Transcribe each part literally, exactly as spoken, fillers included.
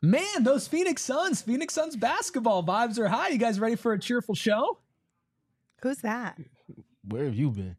Man, those Phoenix Suns, Phoenix Suns basketball vibes are high. You guys ready for a cheerful show? Who's that? Where have you been?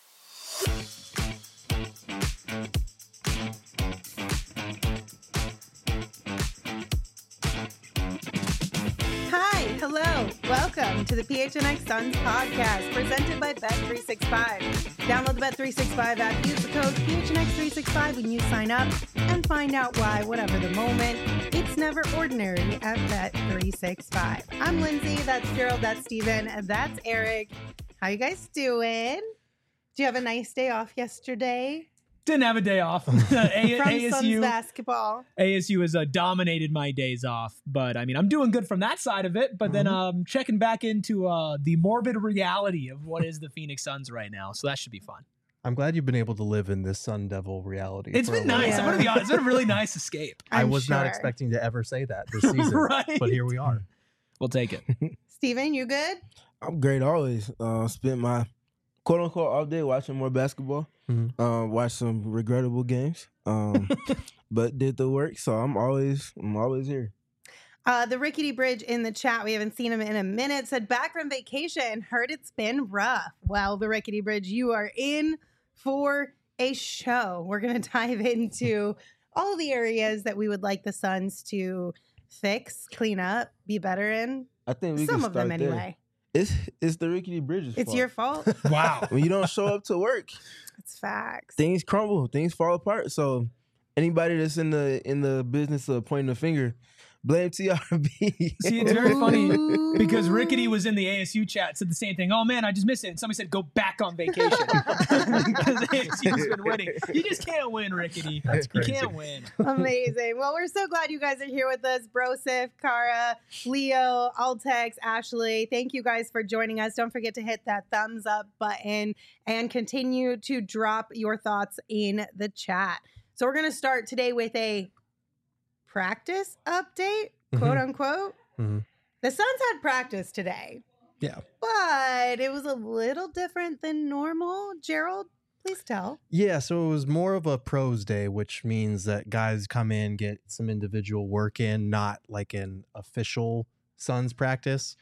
Hi, hello, welcome to the P H N X Suns podcast presented by Bet three sixty-five. Download the Bet three sixty-five app, use the code P H N X three sixty-five when you sign up, and find out why, whatever the moment, it's never ordinary at Bet three sixty-five. I'm Lindsay, that's Gerald, that's Steven, and that's Eric. How you guys doing? Did you have a nice day off yesterday? Didn't have a day off. a- From ASU, Suns basketball. A S U has uh, dominated my days off, but I mean, I'm doing good from that side of it. But then um, checking back into uh, the morbid reality of what is the Phoenix Suns right now, so that should be fun. I'm glad you've been able to live in this Sun Devil reality. It's for a been little nice. Yeah. I'm gonna be honest. It's been a really nice escape. I I'm was not sure. expecting to ever say that this season, Right. but here we are. We'll take it. Steven, you good? I'm great always. Uh, spent my quote unquote all day watching more basketball. Mhm. Uh, watched some regrettable games. Um, but did the work, so I'm always I'm always here. Uh, the Rickety Bridge in the chat, we haven't seen him in a minute, said back from vacation, heard it's been rough. Well, the Rickety Bridge, you are in for a show. We're going to dive into all the areas that we would like the Suns to fix, clean up, be better in. I think we Some can of them start there. anyway. It's it's the Rickety Bridges. It's fault. your fault. Wow. When you don't show up to work, It's facts. things crumble, things fall apart. So anybody that's in the in the business of pointing a finger, blame T R B. See, it's very funny Ooh. because Rickety was in the A S U chat, said the same thing. Oh man, I just missed it. And somebody said, go back on vacation because A S U's been winning. You just can't win, Rickety. That's You crazy. can't win. Amazing. Well, we're so glad you guys are here with us. Brosif, Kara, Leo, Altex, Ashley. Thank you guys for joining us. Don't forget to hit that thumbs up button and continue to drop your thoughts in the chat. So we're going to start today with a practice update, quote Mhm. unquote. Mhm. The Suns had practice today, Yeah. but it was a little different than normal. Gerald, please tell. Yeah, so it was more of a pros day, which means that guys come in, get some individual work in, not like an official Suns practice.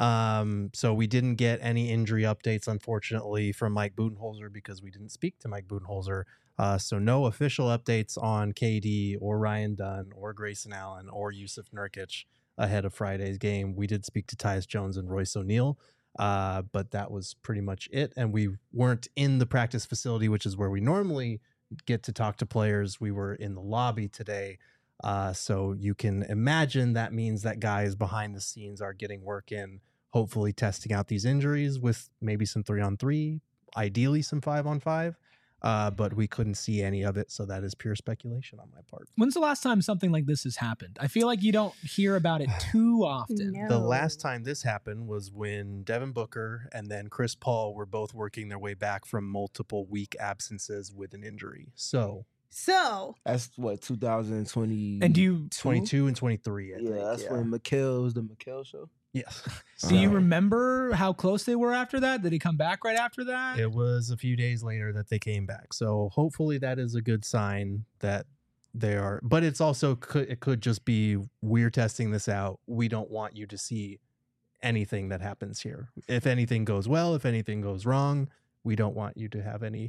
Um, so we didn't get any injury updates, unfortunately, from Mike Budenholzer because we didn't speak to Mike Budenholzer. Uh, so no official updates on K D or Ryan Dunn or Grayson Allen or Yusuf Nurkic ahead of Friday's game. We did speak to Tyus Jones and Royce O'Neal. Uh, but that was pretty much it. And we weren't in the practice facility, which is where we normally get to talk to players. We were in the lobby today. Uh, so you can imagine that means that guys behind the scenes are getting work in, hopefully testing out these injuries with maybe some three on three, ideally some five on five. Uh, but we couldn't see any of it. So that is pure speculation on my part. When's the last time something like this has happened? I feel like you don't hear about it too often. No. The last time this happened was when Devin Booker and then Chris Paul were both working their way back from multiple week absences with an injury. So So, That's what two thousand twenty. And do you twenty-two and twenty-three, I Yeah, think. that's yeah. when Mikhail was the Mikhail show. Yes. do you So remember how close they were after that? Did he come back right after that? it was a few days later that they came back. So hopefully that is a good sign that they are. But it's also could it could just be we're testing this out. We don't want you to see anything that happens here. If anything goes well, if anything goes wrong, we don't want you to have any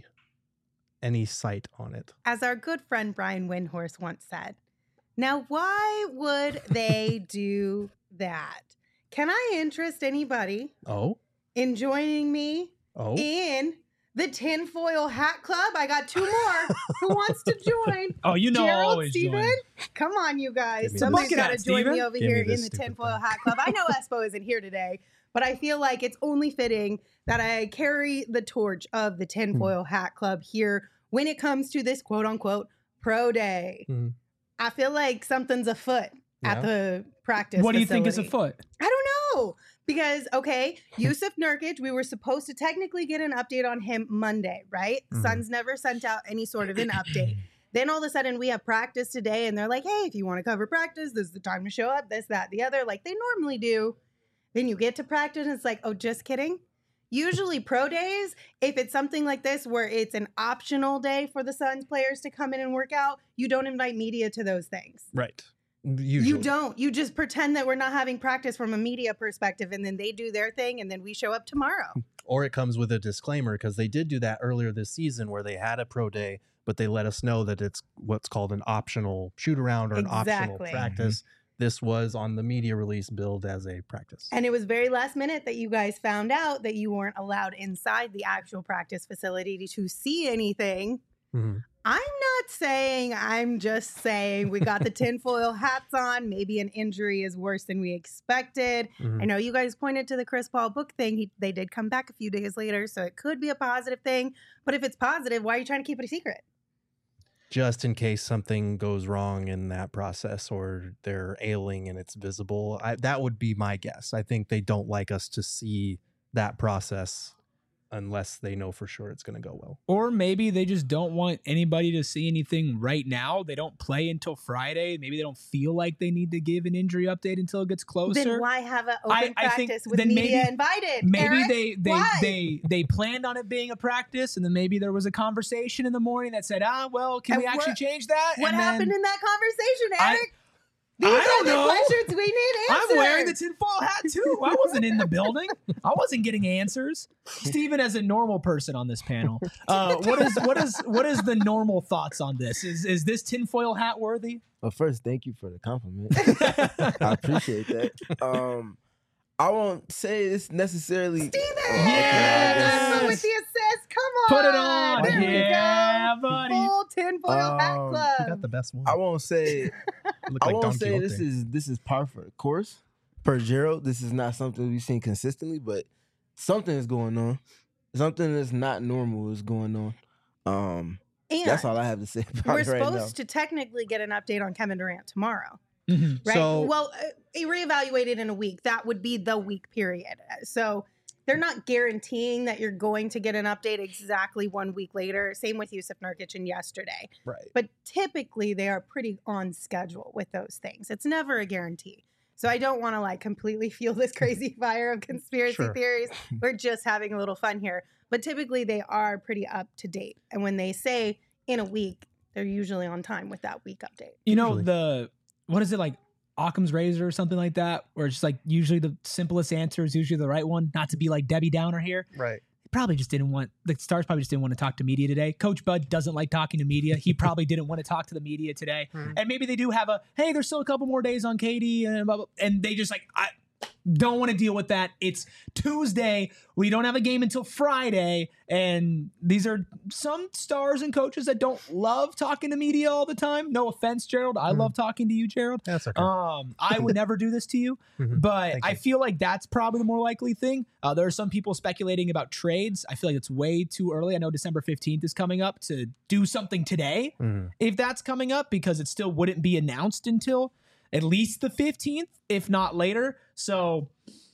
any sight on it. as our good friend Brian Windhorse once said, now why would they do that? Can I interest anybody Oh, in joining me oh, in the tinfoil hat club? I got two more. Who wants to join? Oh, you know, I'll Gerald, always Steven? join. Come on, you guys. Give me Somebody's this. got to Bucket join hat, me over Give me here in this the stupid tinfoil thing. hat club. I know Espo isn't here today, but I feel like it's only fitting that I carry the torch of the tinfoil hat club here when it comes to this quote unquote pro day. Mhm. I feel like something's afoot at Yeah. the practice. What do you think is facility. afoot? I don't know. Because, okay, Yusuf Nurkic, we were supposed to technically get an update on him Monday, right? Mhm. Suns never sent out any sort of an update. Then all of a sudden we have practice today and they're like, hey, if you want to cover practice, this is the time to show up, this, that, the other, like they normally do. Then you get to practice and it's like, oh, just kidding. Usually pro days, if it's something like this where it's an optional day for the Suns players to come in and work out, you don't invite media to those things. right. Usually. You don't. You just pretend that we're not having practice from a media perspective, and then they do their thing, and then we show up tomorrow. Or it comes with a disclaimer, because they did do that earlier this season where they had a pro day, but they let us know that it's what's called an optional shoot around or an Exactly. optional practice. Mm-hmm. This was on the media release billed as a practice. And it was very last minute that you guys found out that you weren't allowed inside the actual practice facility to see anything. Mm-hmm. I'm not saying, I'm just saying we got the tinfoil hats on. Maybe an injury is worse than we expected. Mm-hmm. I know you guys pointed to the Chris Paul book thing. He, they did come back a few days later, so it could be a positive thing. But if it's positive, why are you trying to keep it a secret? Just in case something goes wrong in that process or they're ailing and it's visible. I, that would be my guess. I think they don't like us to see that process unless they know for sure it's going to go well. Or maybe they just don't want anybody to see anything right now. They don't play until Friday. Maybe they don't feel like they need to give an injury update until it gets closer. Then why have an open I- I think practice with then media maybe- invited? Maybe Eric? they they, Why? they they planned on it being a practice, and then maybe there was a conversation in the morning that said, ah, well, can And we actually what- change that? What And then- happened in that conversation, I- Eric? These I are don't the know. questions we need answered. I'm wearing the tinfoil hat too. I wasn't in the building. I wasn't getting answers. Steven, as a normal person on this panel, uh, what is what is what is the normal thoughts on this? Is is this tinfoil hat worthy? Well, first, thank you for the compliment. I appreciate that. Um, I won't say it's necessarily. Steven! Yes! With the assist, come on. Put it on. There Yeah, we go. buddy. Full tinfoil hat Um, club. You got the best one. I won't say. Look I like won't Don say this Quixote. is this is par for the course. Per Gerald, this is not something we've seen consistently, but something is going on. Something that's not normal is going on. Um, and that's all I have to say about we're it right supposed now. to technically get an update on Kevin Durant tomorrow. Mhm. Right. So- well, uh, reevaluated in a week. That would be the week period. So they're not guaranteeing that you're going to get an update exactly one week later. Same with Yusuf Nurkic and yesterday. Right. But typically they are pretty on schedule with those things. It's never a guarantee. So I don't want to like completely fuel this crazy fire of conspiracy Sure. theories. We're just having a little fun here. But typically they are pretty up to date. And when they say in a week, they're usually on time with that week update. You know Usually. the what is it like Occam's razor or something like that, where it's just like usually the simplest answer is usually the right one. Not to be like Debbie Downer here. Right. Probably just didn't want the Stars probably just didn't want to talk to media today. Coach Bud doesn't like talking to media. He probably didn't want to talk to the media today. Mhm. And maybe they do have a hey, there's still a couple more days on K D and blah, blah, and they just like I don't want to deal with that. It's Tuesday. We don't have a game until Friday, and these are some stars and coaches that don't love talking to media all the time. No offense, Gerald. I Mhm. love talking to you, Gerald. That's okay. Um, I would never do this to you, Mhm. but Thank I you. feel like that's probably the more likely thing. Uh, there are some people speculating about trades. I feel like it's way too early. I know December fifteenth is coming up to do something today, Mhm. if that's coming up, because it still wouldn't be announced until at least the fifteenth, if not later. So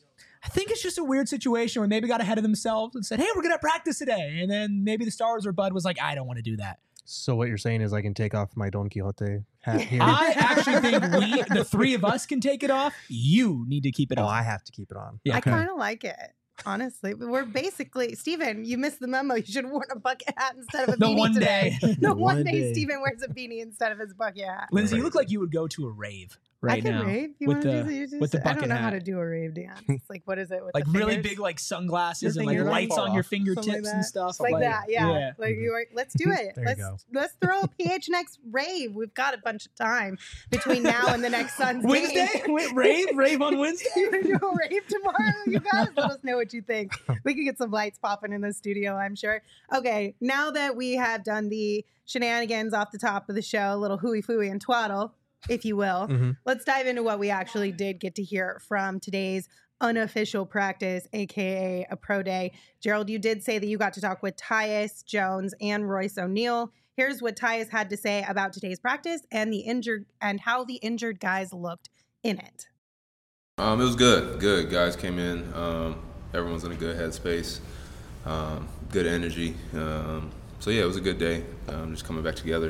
I think it's just a weird situation where maybe got ahead of themselves and said, hey, we're going to practice today. And then maybe the Stars or Bud was like, I don't want to do that. So what you're saying is I can take off my Don Quixote hat here? I actually think we, the three of us, can take it off. You need to keep it oh, on. I have to keep it on. Yeah, I okay. kind of like it, honestly. But we're basically, Steven, you missed the memo. You should have worn a bucket hat instead of a The beanie one today. day. The one, One day, day. Steven wears a beanie instead of his bucket hat. Lindsay, you Right. look like you would go to a rave right I can now. rave. You with wanna the- do you just, with the I don't bucket know how hat. to do a rave dance. It's like, what is it? With Like the really fingers? big like sunglasses Your and like fingers lights fall on your off. fingertips Something like and that. stuff. like, that, yeah. yeah. Like you are, let's do it. There you let's go. let's throw a P H N X rave. We've got a bunch of time between now and the next Suns Wednesday? game. Wait, rave? Rave on Wednesday? You want to do a rave tomorrow? You guys let us know what you think. We could get some lights popping in the studio, I'm sure. Okay, now that we have done the shenanigans off the top of the show, a little hooey fooey and twaddle, if you will, Mhm. let's dive into what we actually did get to hear from today's unofficial practice, aka a pro day. Gerald, you did say that you got to talk with Tyus Jones and Royce O'Neal. Here's what Tyus had to say about today's practice and the injured and how the injured guys looked in it. Um, it was good. Good guys came in. Um, everyone's in a good headspace. Um, good energy. Um, so yeah, it was a good day. Um, just coming back together.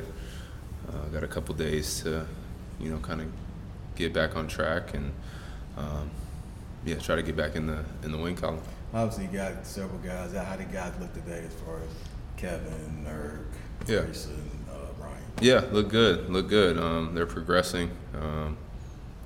Uh, got a couple days to, you know, kind of get back on track and um, yeah, try to get back in the in the win column. Obviously, you got several guys. How did guys look today as far as Kevin, Nurk, Yeah. Grayson, uh, Ryan? Yeah, look good. Look good. Um, they're progressing. Um,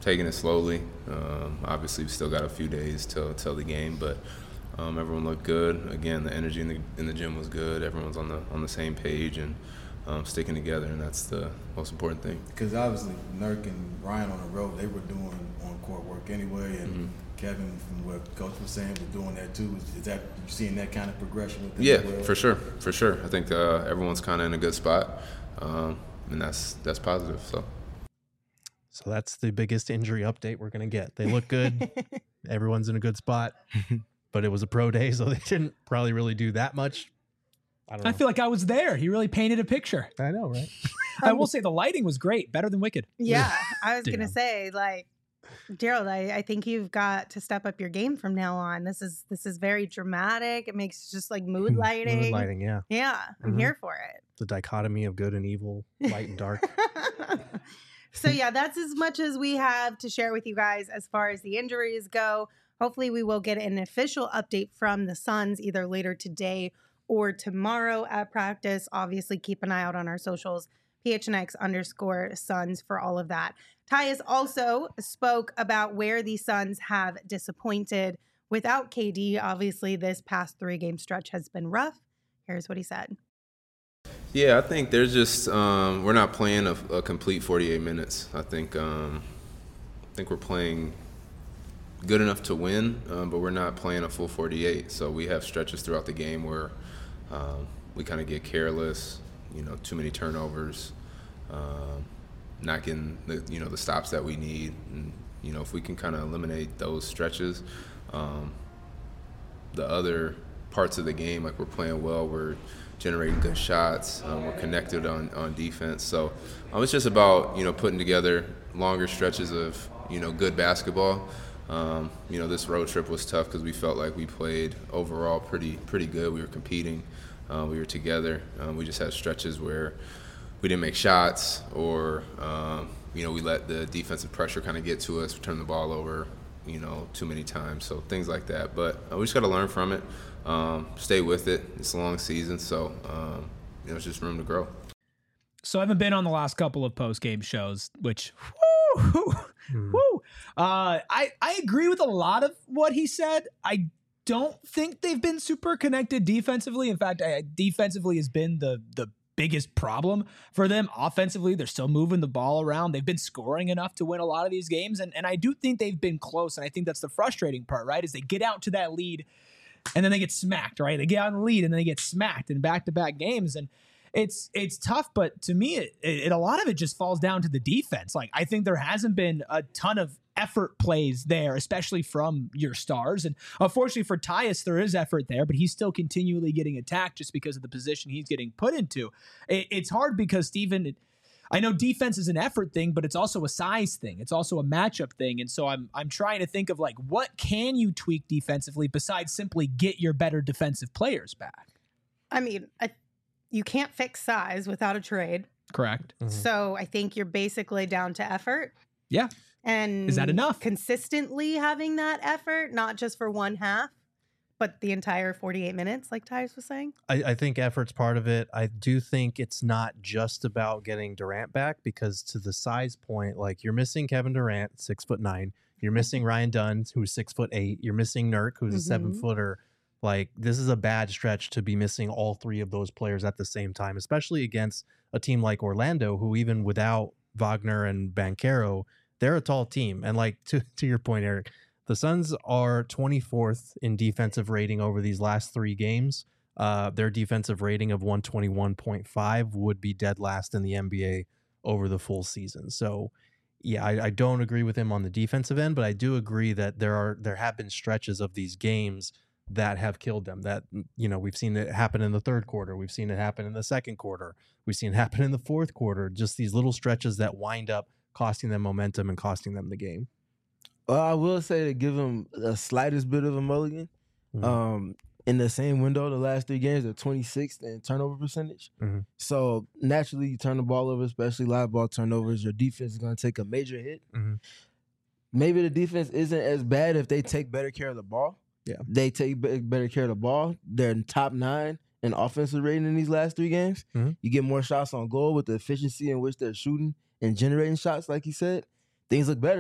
taking it slowly. Um, obviously, we still got a few days till till the game, but um, everyone looked good. Again, the energy in the in the gym was good. Everyone's on the on the same page and um, sticking together, and that's the most important thing. Because obviously, Nurk and Ryan on the road, they were doing on-court work anyway, and mm-hmm. Kevin, from what Coach was saying, was doing that too. Is, is that you seeing that kind of progression with them? Yeah, as well? for sure, for sure. I think uh, everyone's kind of in a good spot, um, and that's that's positive. So. So that's the biggest injury update we're going to get. They look good. Everyone's in a good spot. But it was a pro day, so they didn't probably really do that much. I don't know. I feel like I was there. He really painted a picture. I know, right? I will say the lighting was great. Better than Wicked. Yeah, I was going to Damn. say, like, Gerald, I, I think you've got to step up your game from now on. This is this is very dramatic. It makes just like mood lighting. Mood lighting, yeah. Yeah, I'm Mhm. here for it. The dichotomy of good and evil, light and dark. So yeah, that's as much as we have to share with you guys as far as the injuries go. Hopefully we will get an official update from the Suns either later today or tomorrow at practice. Obviously keep an eye out on our socials, P H N X underscore Suns for all of that. Tyus also spoke about where the Suns have disappointed without K D. Obviously this past three game stretch has been rough. Here's what he said. Yeah, I think there's just um, we're not playing a, a complete forty-eight minutes. I think um, I think we're playing good enough to win, um, but we're not playing a full forty-eight. So we have stretches throughout the game where um, we kind of get careless, you know, too many turnovers, um, not getting the you know the stops that we need. And you know, if we can kind of eliminate those stretches, um, the other parts of the game, like we're playing well, we're generating good shots, um, we're connected on, on defense. So um, it's just about, you know, putting together longer stretches of, you know, good basketball. Um, you know, this road trip was tough because we felt like we played overall pretty pretty good. We were competing. Uh, we were together. Um, we just had stretches where we didn't make shots or, um, you know, we let the defensive pressure kind of get to us, turn the ball over, you know, too many times. So things like that. But uh, we just got to learn from it. Um, stay with it. It's a long season, so um, you know, it's just room to grow. So I haven't been on the last couple of post-game shows, which, whoo, Hmm. whoo. Uh, I, I agree with a lot of what he said. I don't think they've been super connected defensively. In fact, I, defensively has been the the biggest problem for them. Offensively, they're still moving the ball around. They've been scoring enough to win a lot of these games, and, and I do think they've been close, and I think that's the frustrating part, right, is they get out to that lead, and then they get smacked, right? They get out in the lead and then they get smacked in back-to-back games. And it's it's tough, but to me, it, it, a lot of it just falls down to the defense. Like, I think there hasn't been a ton of effort plays there, especially from your stars. And unfortunately for Tyus, there is effort there, but he's still continually getting attacked just because of the position he's getting put into. It, it's hard because, Steven, it, I know defense is an effort thing, but it's also a size thing. It's also a matchup thing. And so I'm I'm trying to think of, like, what can you tweak defensively besides simply get your better defensive players back? I mean, I, you can't fix size without a trade. Correct. Mhm. So I think you're basically down to effort. Yeah. And Is that enough? Consistently having that effort, not just for one half, but the entire forty-eight minutes, like Tyus was saying. I, I think effort's part of it. I do think it's not just about getting Durant back, because to the size point, like, you're missing Kevin Durant, six foot nine. You're missing Ryan Dunn, who's six foot eight. You're missing Nurk, who's a seven Mhm. footer. Like, this is a bad stretch to be missing all three of those players at the same time, especially against a team like Orlando, who even without Wagner and Banchero, they're a tall team. And like, to, to your point, Eric, the Suns are twenty-fourth in defensive rating over these last three games. Uh, their defensive rating of one twenty-one point five would be dead last in the N B A over the full season. So, yeah, I, I don't agree with him on the defensive end, but I do agree that there are there have been stretches of these games that have killed them. That, you know, we've seen it happen in the third quarter. We've seen it happen in the second quarter. We've seen it happen in the fourth quarter. Just these little stretches that wind up costing them momentum and costing them the game. Well, I will say to give them the slightest bit of a mulligan. Mhm. Um, in the same window, the last three games, they're twenty-sixth in turnover percentage. Mhm. So naturally, you turn the ball over, especially live ball turnovers. Your defense is going to take a major hit. Mhm. Maybe the defense isn't as bad if they take better care of the ball. Yeah. They take be- better care of the ball. They're in top nine in offensive rating in these last three games. Mhm. You get more shots on goal with the efficiency in which they're shooting and generating shots, like you said. Things look better.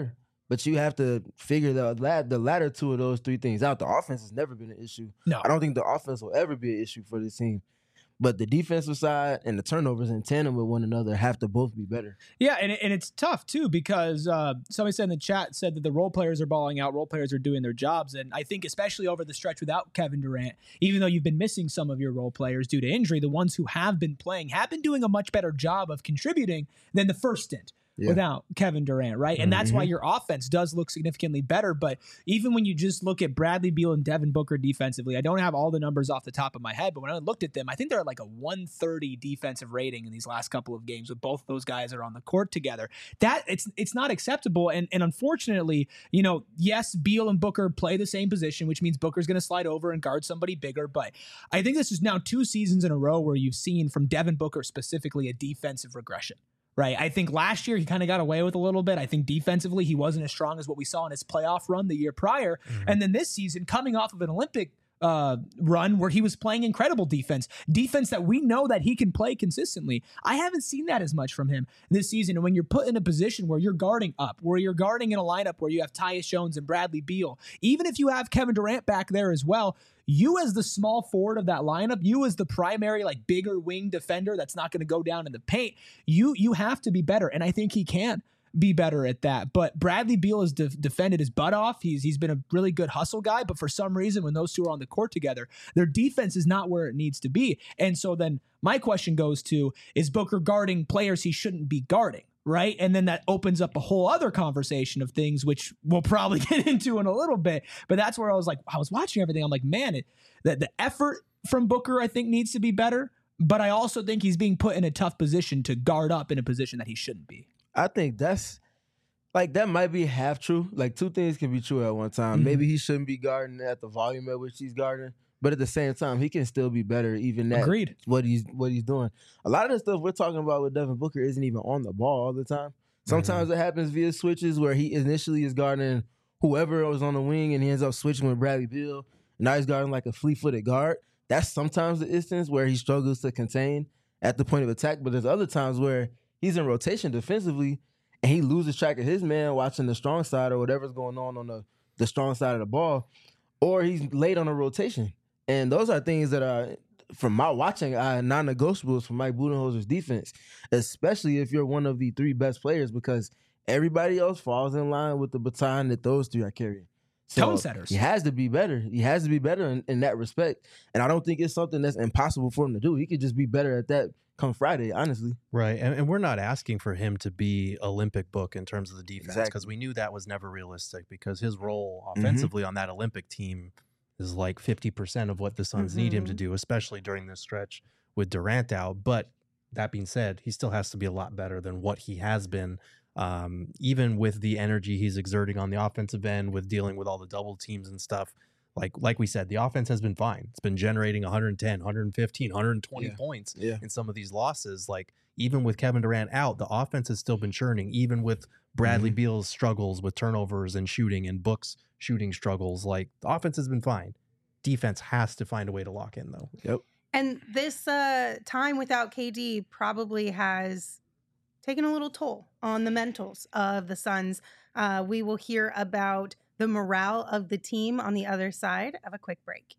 But you have to figure the la- the latter two of those three things out. The offense has never been an issue. No. I don't think the offense will ever be an issue for this team. But the defensive side and the turnovers in tandem with one another have to both be better. Yeah, and, it, and it's tough, too, because uh, somebody said in the chat, said that the role players are balling out, role players are doing their jobs, and I think especially over the stretch without Kevin Durant, even though you've been missing some of your role players due to injury, the ones who have been playing have been doing a much better job of contributing than the first stint. Yeah. Without Kevin Durant, right? And that's mm-hmm. why your offense does look significantly better. But even when you just look at Bradley Beal and Devin Booker defensively, I don't have all the numbers off the top of my head, but when I looked at them, I think they're at like a one thirty defensive rating in these last couple of games with both those guys are on the court together. That it's it's not acceptable. And and unfortunately, you know, yes, Beal and Booker play the same position, which means Booker's going to slide over and guard somebody bigger. But I think this is now two seasons in a row where you've seen from Devin Booker specifically a defensive regression. Right. I think last year he kind of got away with a little bit. I think defensively he wasn't as strong as what we saw in his playoff run the year prior. Mm-hmm. And then this season, coming off of an Olympic uh, run where he was playing incredible defense, defense that we know that he can play consistently. I haven't seen that as much from him this season. And when you're put in a position where you're guarding up, where you're guarding in a lineup where you have Tyus Jones and Bradley Beal, even if you have Kevin Durant back there as well, you as the small forward of that lineup, you as the primary, like bigger wing defender that's not going to go down in the paint, you you have to be better. And I think he can be better at that. But Bradley Beal has de- defended his butt off. He's he's been a really good hustle guy. But for some reason, when those two are on the court together, their defense is not where it needs to be. And so then my question goes to, is Booker guarding players he shouldn't be guarding? Right. And then that opens up a whole other conversation of things, which we'll probably get into in a little bit. But that's where I was like, I was watching everything. I'm like, man, it, the, the effort from Booker, I think, needs to be better. But I also think he's being put in a tough position to guard up in a position that he shouldn't be. I think that's like that might be half true. Like two things can be true at one time. Mm-hmm. Maybe he shouldn't be guarding at the volume at which he's guarding. But at the same time, he can still be better, even at Agreed. what he's what he's doing. A lot of the stuff we're talking about with Devin Booker isn't even on the ball all the time. Sometimes mm-hmm. it happens via switches where he initially is guarding whoever was on the wing and he ends up switching with Bradley Beal. Now he's guarding like a fleet-footed guard. That's sometimes the instance where he struggles to contain at the point of attack. But there's other times where he's in rotation defensively and he loses track of his man watching the strong side or whatever's going on on the, the strong side of the ball, or he's late on a rotation. And those are things that are, from my watching, are non-negotiables for Mike Budenholzer's defense, especially if you're one of the three best players, because everybody else falls in line with the baton that those three are carrying. So tone setters. He has to be better. He has to be better in, in that respect. And I don't think it's something that's impossible for him to do. He could just be better at that come Friday, honestly. Right. And, and we're not asking for him to be Olympic book in terms of the defense, because Exactly. we knew that was never realistic, because his role offensively on that Olympic team is like fifty percent of what the Suns Mm-hmm. need him to do, especially during this stretch with Durant out. But that being said, he still has to be a lot better than what he has been, um, even with the energy he's exerting on the offensive end, with dealing with all the double teams and stuff. Like like we said, the offense has been fine. It's been generating one ten, one fifteen, one twenty Yeah. points Yeah. in some of these losses. Like, even with Kevin Durant out, the offense has still been churning, even with Bradley Mhm. Beal's struggles with turnovers and shooting and Book's shooting struggles. Like, the offense has been fine. Defense has to find a way to lock in, though. Yep. And this uh, time without K D probably has taken a little toll on the mentals of the Suns. Uh, we will hear about the morale of the team on the other side of a quick break.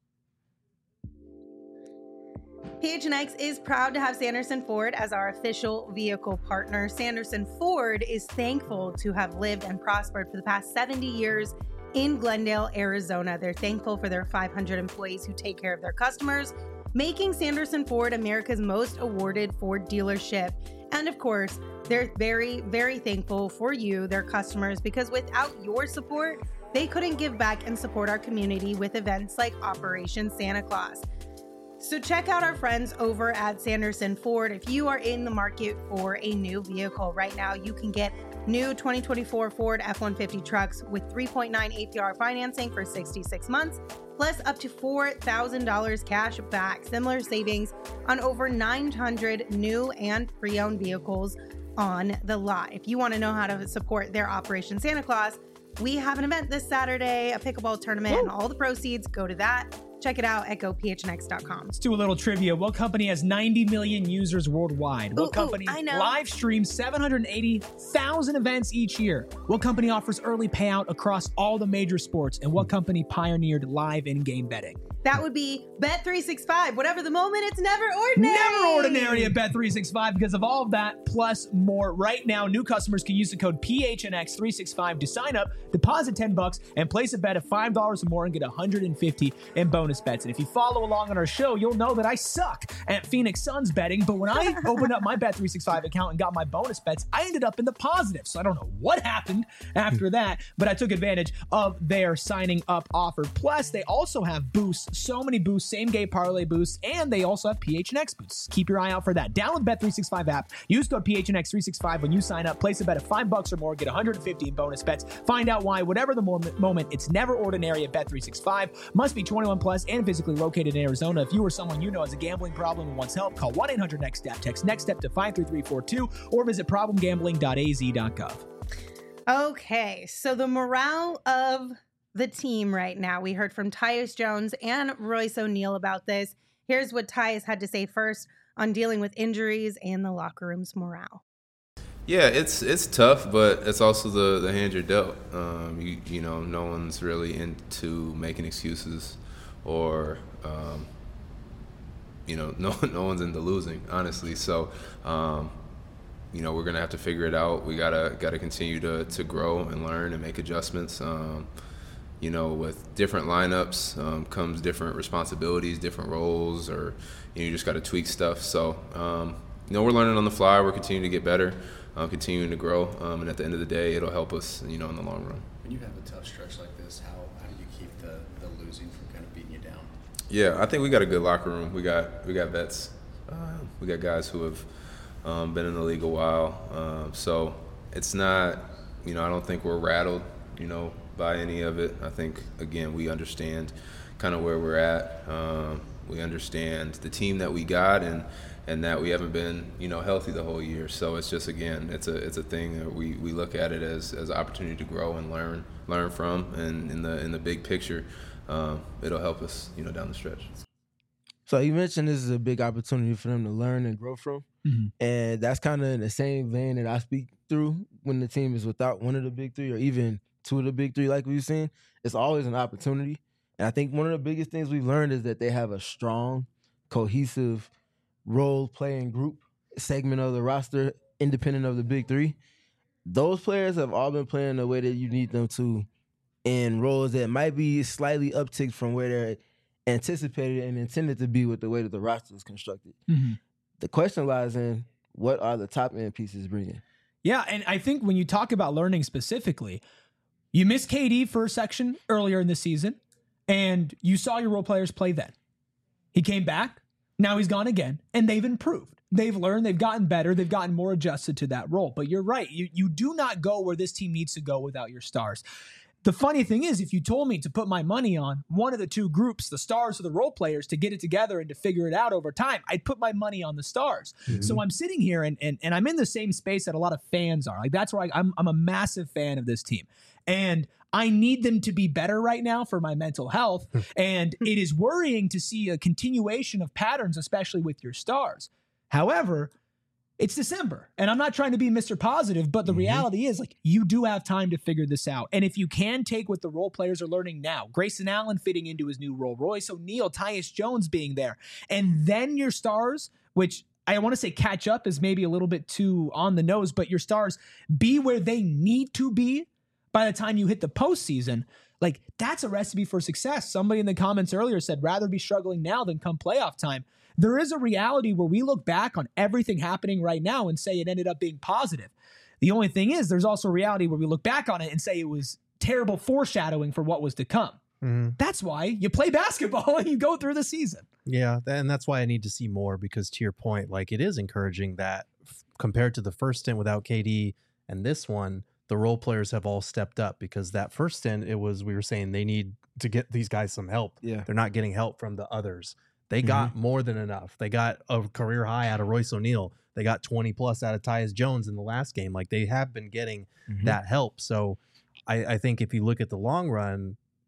P H N X is proud to have Sanderson Ford as our official vehicle partner. Sanderson Ford is thankful to have lived and prospered for the past seventy years in Glendale, Arizona. They're thankful for their five hundred employees who take care of their customers, making Sanderson Ford America's most awarded Ford dealership. And of course, they're very, very thankful for you, their customers, because without your support, they couldn't give back and support our community with events like Operation Santa Claus. So check out our friends over at Sanderson Ford. If you are in the market for a new vehicle right now, you can get new twenty twenty-four Ford F one fifty trucks with three point nine A P R financing for sixty-six months, plus up to four thousand dollars cash back. Similar savings on over nine hundred new and pre-owned vehicles on the lot. If you want to know how to support their Operation Santa Claus, we have an event this Saturday, a pickleball tournament, and all the proceeds go to that. Check it out at go p h n x dot com. Let's do a little trivia. What company has ninety million users worldwide? What Ooh, ooh, company I know. live streams seven hundred eighty thousand events each year? What company offers early payout across all the major sports? And what company pioneered live in-game betting? That would be Bet three sixty-five. Whatever the moment, it's never ordinary. Never ordinary at Bet three sixty-five because of all of that plus more. Right now, new customers can use the code P H N X three sixty-five to sign up, deposit ten bucks, and place a bet of five dollars or more and get one hundred fifty in bonus bets. And if you follow along on our show, you'll know that I suck at Phoenix Suns betting. But when I opened up my Bet three sixty-five account and got my bonus bets, I ended up in the positive. So I don't know what happened after that, but I took advantage of their signing up offer. Plus, they also have boosts, so many boosts, same game parlay boosts, and they also have P H N X boosts. Keep your eye out for that. Download the Bet three sixty-five app. Use code P H N X three sixty-five when you sign up. Place a bet of five bucks or more. Get one hundred fifty in bonus bets. Find out why, whatever the moment, moment it's never ordinary at Bet three sixty-five. Must be twenty-one plus and physically located in Arizona. If you or someone you know has a gambling problem and wants help, call one eight hundred next step. Text NEXTSTEP to five three three four two or visit problem gambling dot a z dot gov. Okay, so the morale of the team right now. We heard from Tyus Jones and Royce O'Neal about this. Here's what Tyus had to say first on dealing with injuries and the locker room's morale. Yeah, it's it's tough, but it's also the, the hand you're dealt. Um, you you know, no one's really into making excuses, or um, you know, no no one's into losing, honestly. So, um, you know, we're gonna have to figure it out. We gotta gotta continue to to grow and learn and make adjustments. Um, you know, with different lineups um, comes different responsibilities, different roles, or you know, you just got to tweak stuff. So, um, you know, we're learning on the fly. We're continuing to get better, uh, continuing to grow, um, and at the end of the day, it'll help us, you know, in the long run. When you have a tough stretch like this, how, how do you keep the, the losing from kind of beating you down? Yeah, I think we got a good locker room. We got we got vets. Uh, we got guys who have um, been in the league a while. Um, so it's not, you know, I don't think we're rattled, you know, by any of it. I think, again, we understand kind of where we're at. Um, we understand the team that we got, and and that we haven't been, you know, healthy the whole year. So it's just, again, it's a it's a thing that we, we look at it as as an opportunity to grow and learn learn from, and in the in the big picture, um, it'll help us, you know, down the stretch. So you mentioned this is a big opportunity for them to learn and grow from, Mm-hmm. and that's kind of in the same vein that I speak through when the team is without one of the big three or even two of the big three, like we've seen. It's always an opportunity, and I think one of the biggest things we've learned is that they have a strong, cohesive role-playing group segment of the roster, independent of the big three. Those players have all been playing the way that you need them to, in roles that might be slightly upticked from where they're anticipated and intended to be with the way that the roster is constructed. Mm-hmm. The question lies in, what are the top end pieces bringing? Yeah, and I think when you talk about learning specifically, you missed K D for a section earlier in the season, and you saw your role players play then. He came back, now he's gone again, and they've improved. They've learned, they've gotten better, they've gotten more adjusted to that role. But you're right, you, you do not go where this team needs to go without your stars. The funny thing is, if you told me to put my money on one of the two groups, the stars or the role players, to get it together and to figure it out over time, I'd put my money on the stars. Mm-hmm. So I'm sitting here and, and and I'm in the same space that a lot of fans are. Like, that's where I, I'm I'm a massive fan of this team. And I need them to be better right now for my mental health. And it is worrying to see a continuation of patterns, especially with your stars. However, it's December, and I'm not trying to be Mister Positive, but the mm-hmm. reality is, like, you do have time to figure this out. And if you can take what the role players are learning now, Grayson Allen fitting into his new role, Royce O'Neal, Tyus Jones being there, and then your stars, which I want to say catch up is maybe a little bit too on the nose, but your stars be where they need to be by the time you hit the postseason, like, that's a recipe for success. Somebody in the comments earlier said, rather be struggling now than come playoff time. There is a reality where we look back on everything happening right now and say it ended up being positive. The only thing is, there's also a reality where we look back on it and say it was terrible foreshadowing for what was to come. Mm-hmm. That's why you play basketball and you go through the season. Yeah, and that's why I need to see more, because to your point, like, it is encouraging that f- compared to the first stint without K D and this one, the role players have all stepped up, because that first stint, it was, we were saying they need to get these guys some help. Yeah. They're not getting help from the others. They got mm-hmm. more than enough. They got a career high out of Royce O'Neal. They got twenty plus out of Tyus Jones in the last game. Like, they have been getting mm-hmm. that help. So I, I think if you look at the long run,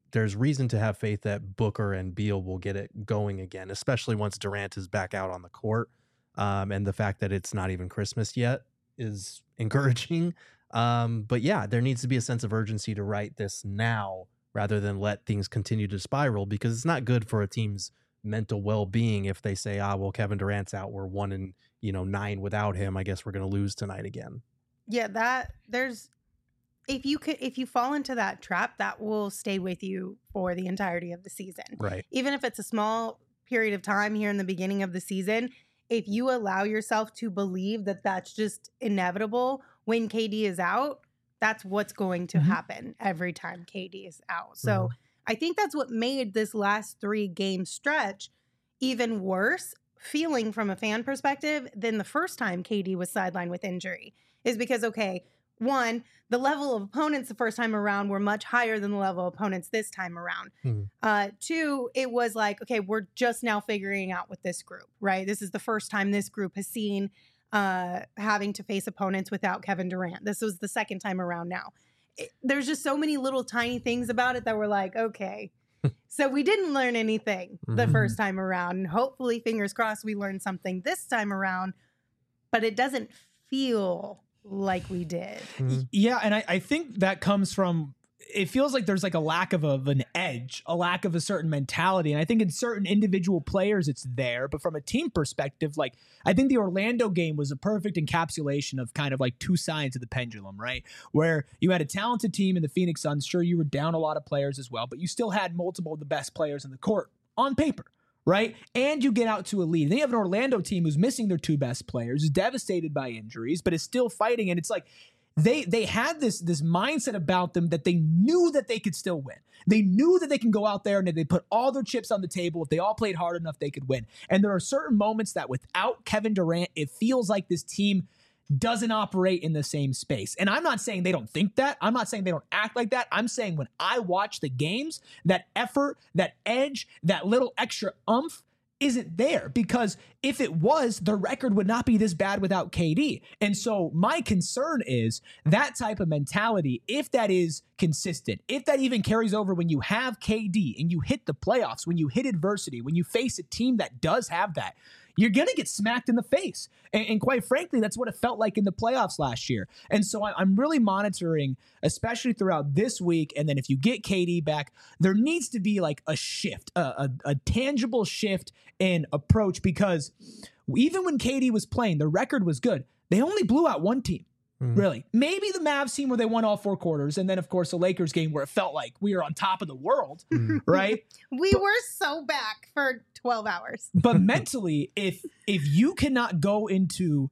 there's reason to have faith that Booker and Beal will get it going again, especially once Durant is back out on the court. Um, and the fact that it's not even Christmas yet is encouraging. Um, but yeah, there needs to be a sense of urgency to right this now rather than let things continue to spiral, because it's not good for a team's mental well-being if they say, ah, well, Kevin Durant's out, we're one and, you know, nine without him, I guess we're going to lose tonight again. Yeah, that there's if you could if you fall into that trap, that will stay with you for the entirety of the season. Right. Even if it's a small period of time here in the beginning of the season, if you allow yourself to believe that that's just inevitable when K D is out, that's what's going to Mm-hmm. happen every time K D is out. So Mhm. I think that's what made this last three game stretch even worse feeling from a fan perspective than the first time K D was sidelined with injury, is because, okay, one, the level of opponents the first time around were much higher than the level of opponents this time around. Hmm. Uh, two, it was like, okay, we're just now figuring out with this group, right? This is the first time this group has seen uh, having to face opponents without Kevin Durant. This was the second time around now. It, there's just so many little tiny things about it that were like, okay. So we didn't learn anything the Mhm. first time around. And hopefully, fingers crossed, we learned something this time around. But it doesn't feel like we did. Mhm. Yeah, and I, I think that comes from, it feels like there's like a lack of, a, of an edge, a lack of a certain mentality. And I think in certain individual players, it's there. But from a team perspective, like I think the Orlando game was a perfect encapsulation of kind of like two sides of the pendulum, right? Where you had a talented team in the Phoenix Suns. Sure, you were down a lot of players as well, but you still had multiple of the best players in the court on paper. Right. And you get out to a lead. Then you have an Orlando team who's missing their two best players, is devastated by injuries, but is still fighting. And it's like they they had this this mindset about them that they knew that they could still win. They knew that they can go out there and if they put all their chips on the table, if they all played hard enough, they could win. And there are certain moments that without Kevin Durant, it feels like this team doesn't operate in the same space. And I'm not saying they don't think that. I'm not saying they don't act like that. I'm saying when I watch the games, that effort, that edge, that little extra oomph isn't there, because if it was, the record would not be this bad without K D. And so my concern is that type of mentality, if that is consistent, if that even carries over when you have K D and you hit the playoffs, when you hit adversity, when you face a team that does have that, you're going to get smacked in the face. And, and quite frankly, that's what it felt like in the playoffs last year. And so I, I'm really monitoring, especially throughout this week. And then if you get K D back, there needs to be like a shift, a, a, a tangible shift in approach, because even when K D was playing, the record was good. They only blew out one team. Mhm. Really. Maybe the Mavs team where they won all four quarters. And then, of course, the Lakers game where it felt like we were on top of the world, Mhm. right? We were so back for twelve hours. But mentally, if if you cannot go into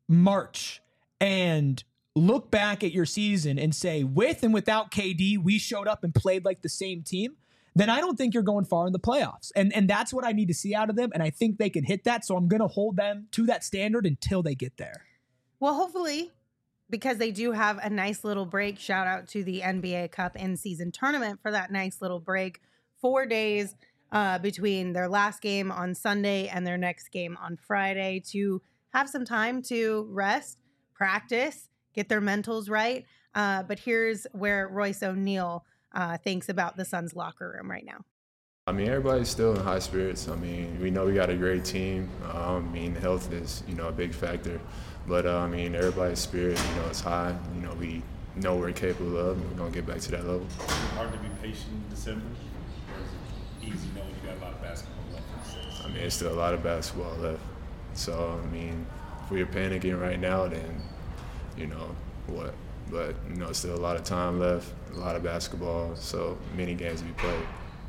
March and look back at your season and say, with and without K D, we showed up and played like the same team, then I don't think you're going far in the playoffs. And and that's what I need to see out of them. And I think they can hit that. So I'm going to hold them to that standard until they get there. Well, hopefully, because they do have a nice little break. Shout out to the N B A Cup in-season tournament for that nice little break. Four days uh, between their last game on Sunday and their next game on Friday to have some time to rest, practice, get their mentals right. Uh, but here's where Royce O'Neal uh, thinks about the Suns locker room right now. I mean, everybody's still in high spirits. I mean, we know we got a great team. Um, I mean, health is, you know, a big factor. But, uh, I mean, everybody's spirit, you know, is high. You know, we know we're capable of, and we're going to get back to that level. Hard to be patient in December? Or is it easy knowing you got a lot of basketball left in the season? I mean, it's still a lot of basketball left. So, I mean, if we're panicking right now, then, you know, what? But, you know, still a lot of time left, a lot of basketball, so many games to be played.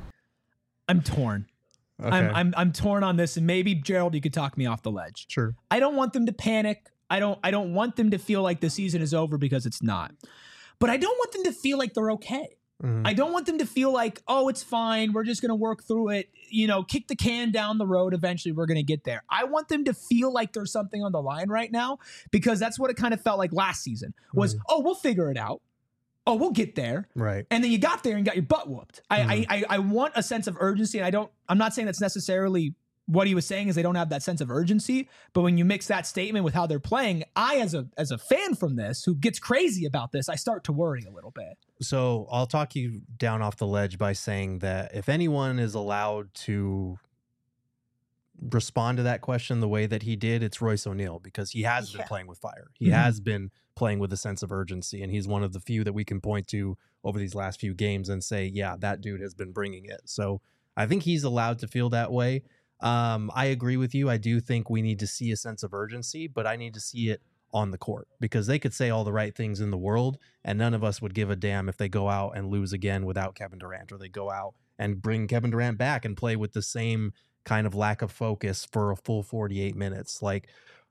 I'm torn. Okay. I'm, I'm I'm torn on this, and maybe Gerald, you could talk me off the ledge. Sure. I don't want them to panic. I don't I don't want them to feel like the season is over, because it's not. But I don't want them to feel like they're okay. Mhm. I don't want them to feel like, oh, it's fine, we're just going to work through it, you know, kick the can down the road, eventually we're going to get there. I want them to feel like there's something on the line right now, because that's what it kind of felt like last season was, Mhm. oh, we'll figure it out. Oh, we'll get there. Right. And then you got there and got your butt whooped. I, Mhm. I, I I want a sense of urgency, and I don't. I'm not saying that's necessarily what he was saying is they don't have that sense of urgency. But when you mix that statement with how they're playing, I, as a as a fan from this, who gets crazy about this, I start to worry a little bit. So I'll talk you down off the ledge by saying that if anyone is allowed to respond to that question the way that he did, it's Royce O'Neal, because he has Yeah. been playing with fire. He Mhm. has been playing with a sense of urgency, and he's one of the few that we can point to over these last few games and say, yeah, that dude has been bringing it. So I think he's allowed to feel that way. Um, I agree with you. I do think we need to see a sense of urgency, but I need to see it on the court, because they could say all the right things in the world and none of us would give a damn if they go out and lose again without Kevin Durant, or they go out and bring Kevin Durant back and play with the same kind of lack of focus for a full forty-eight minutes. Like,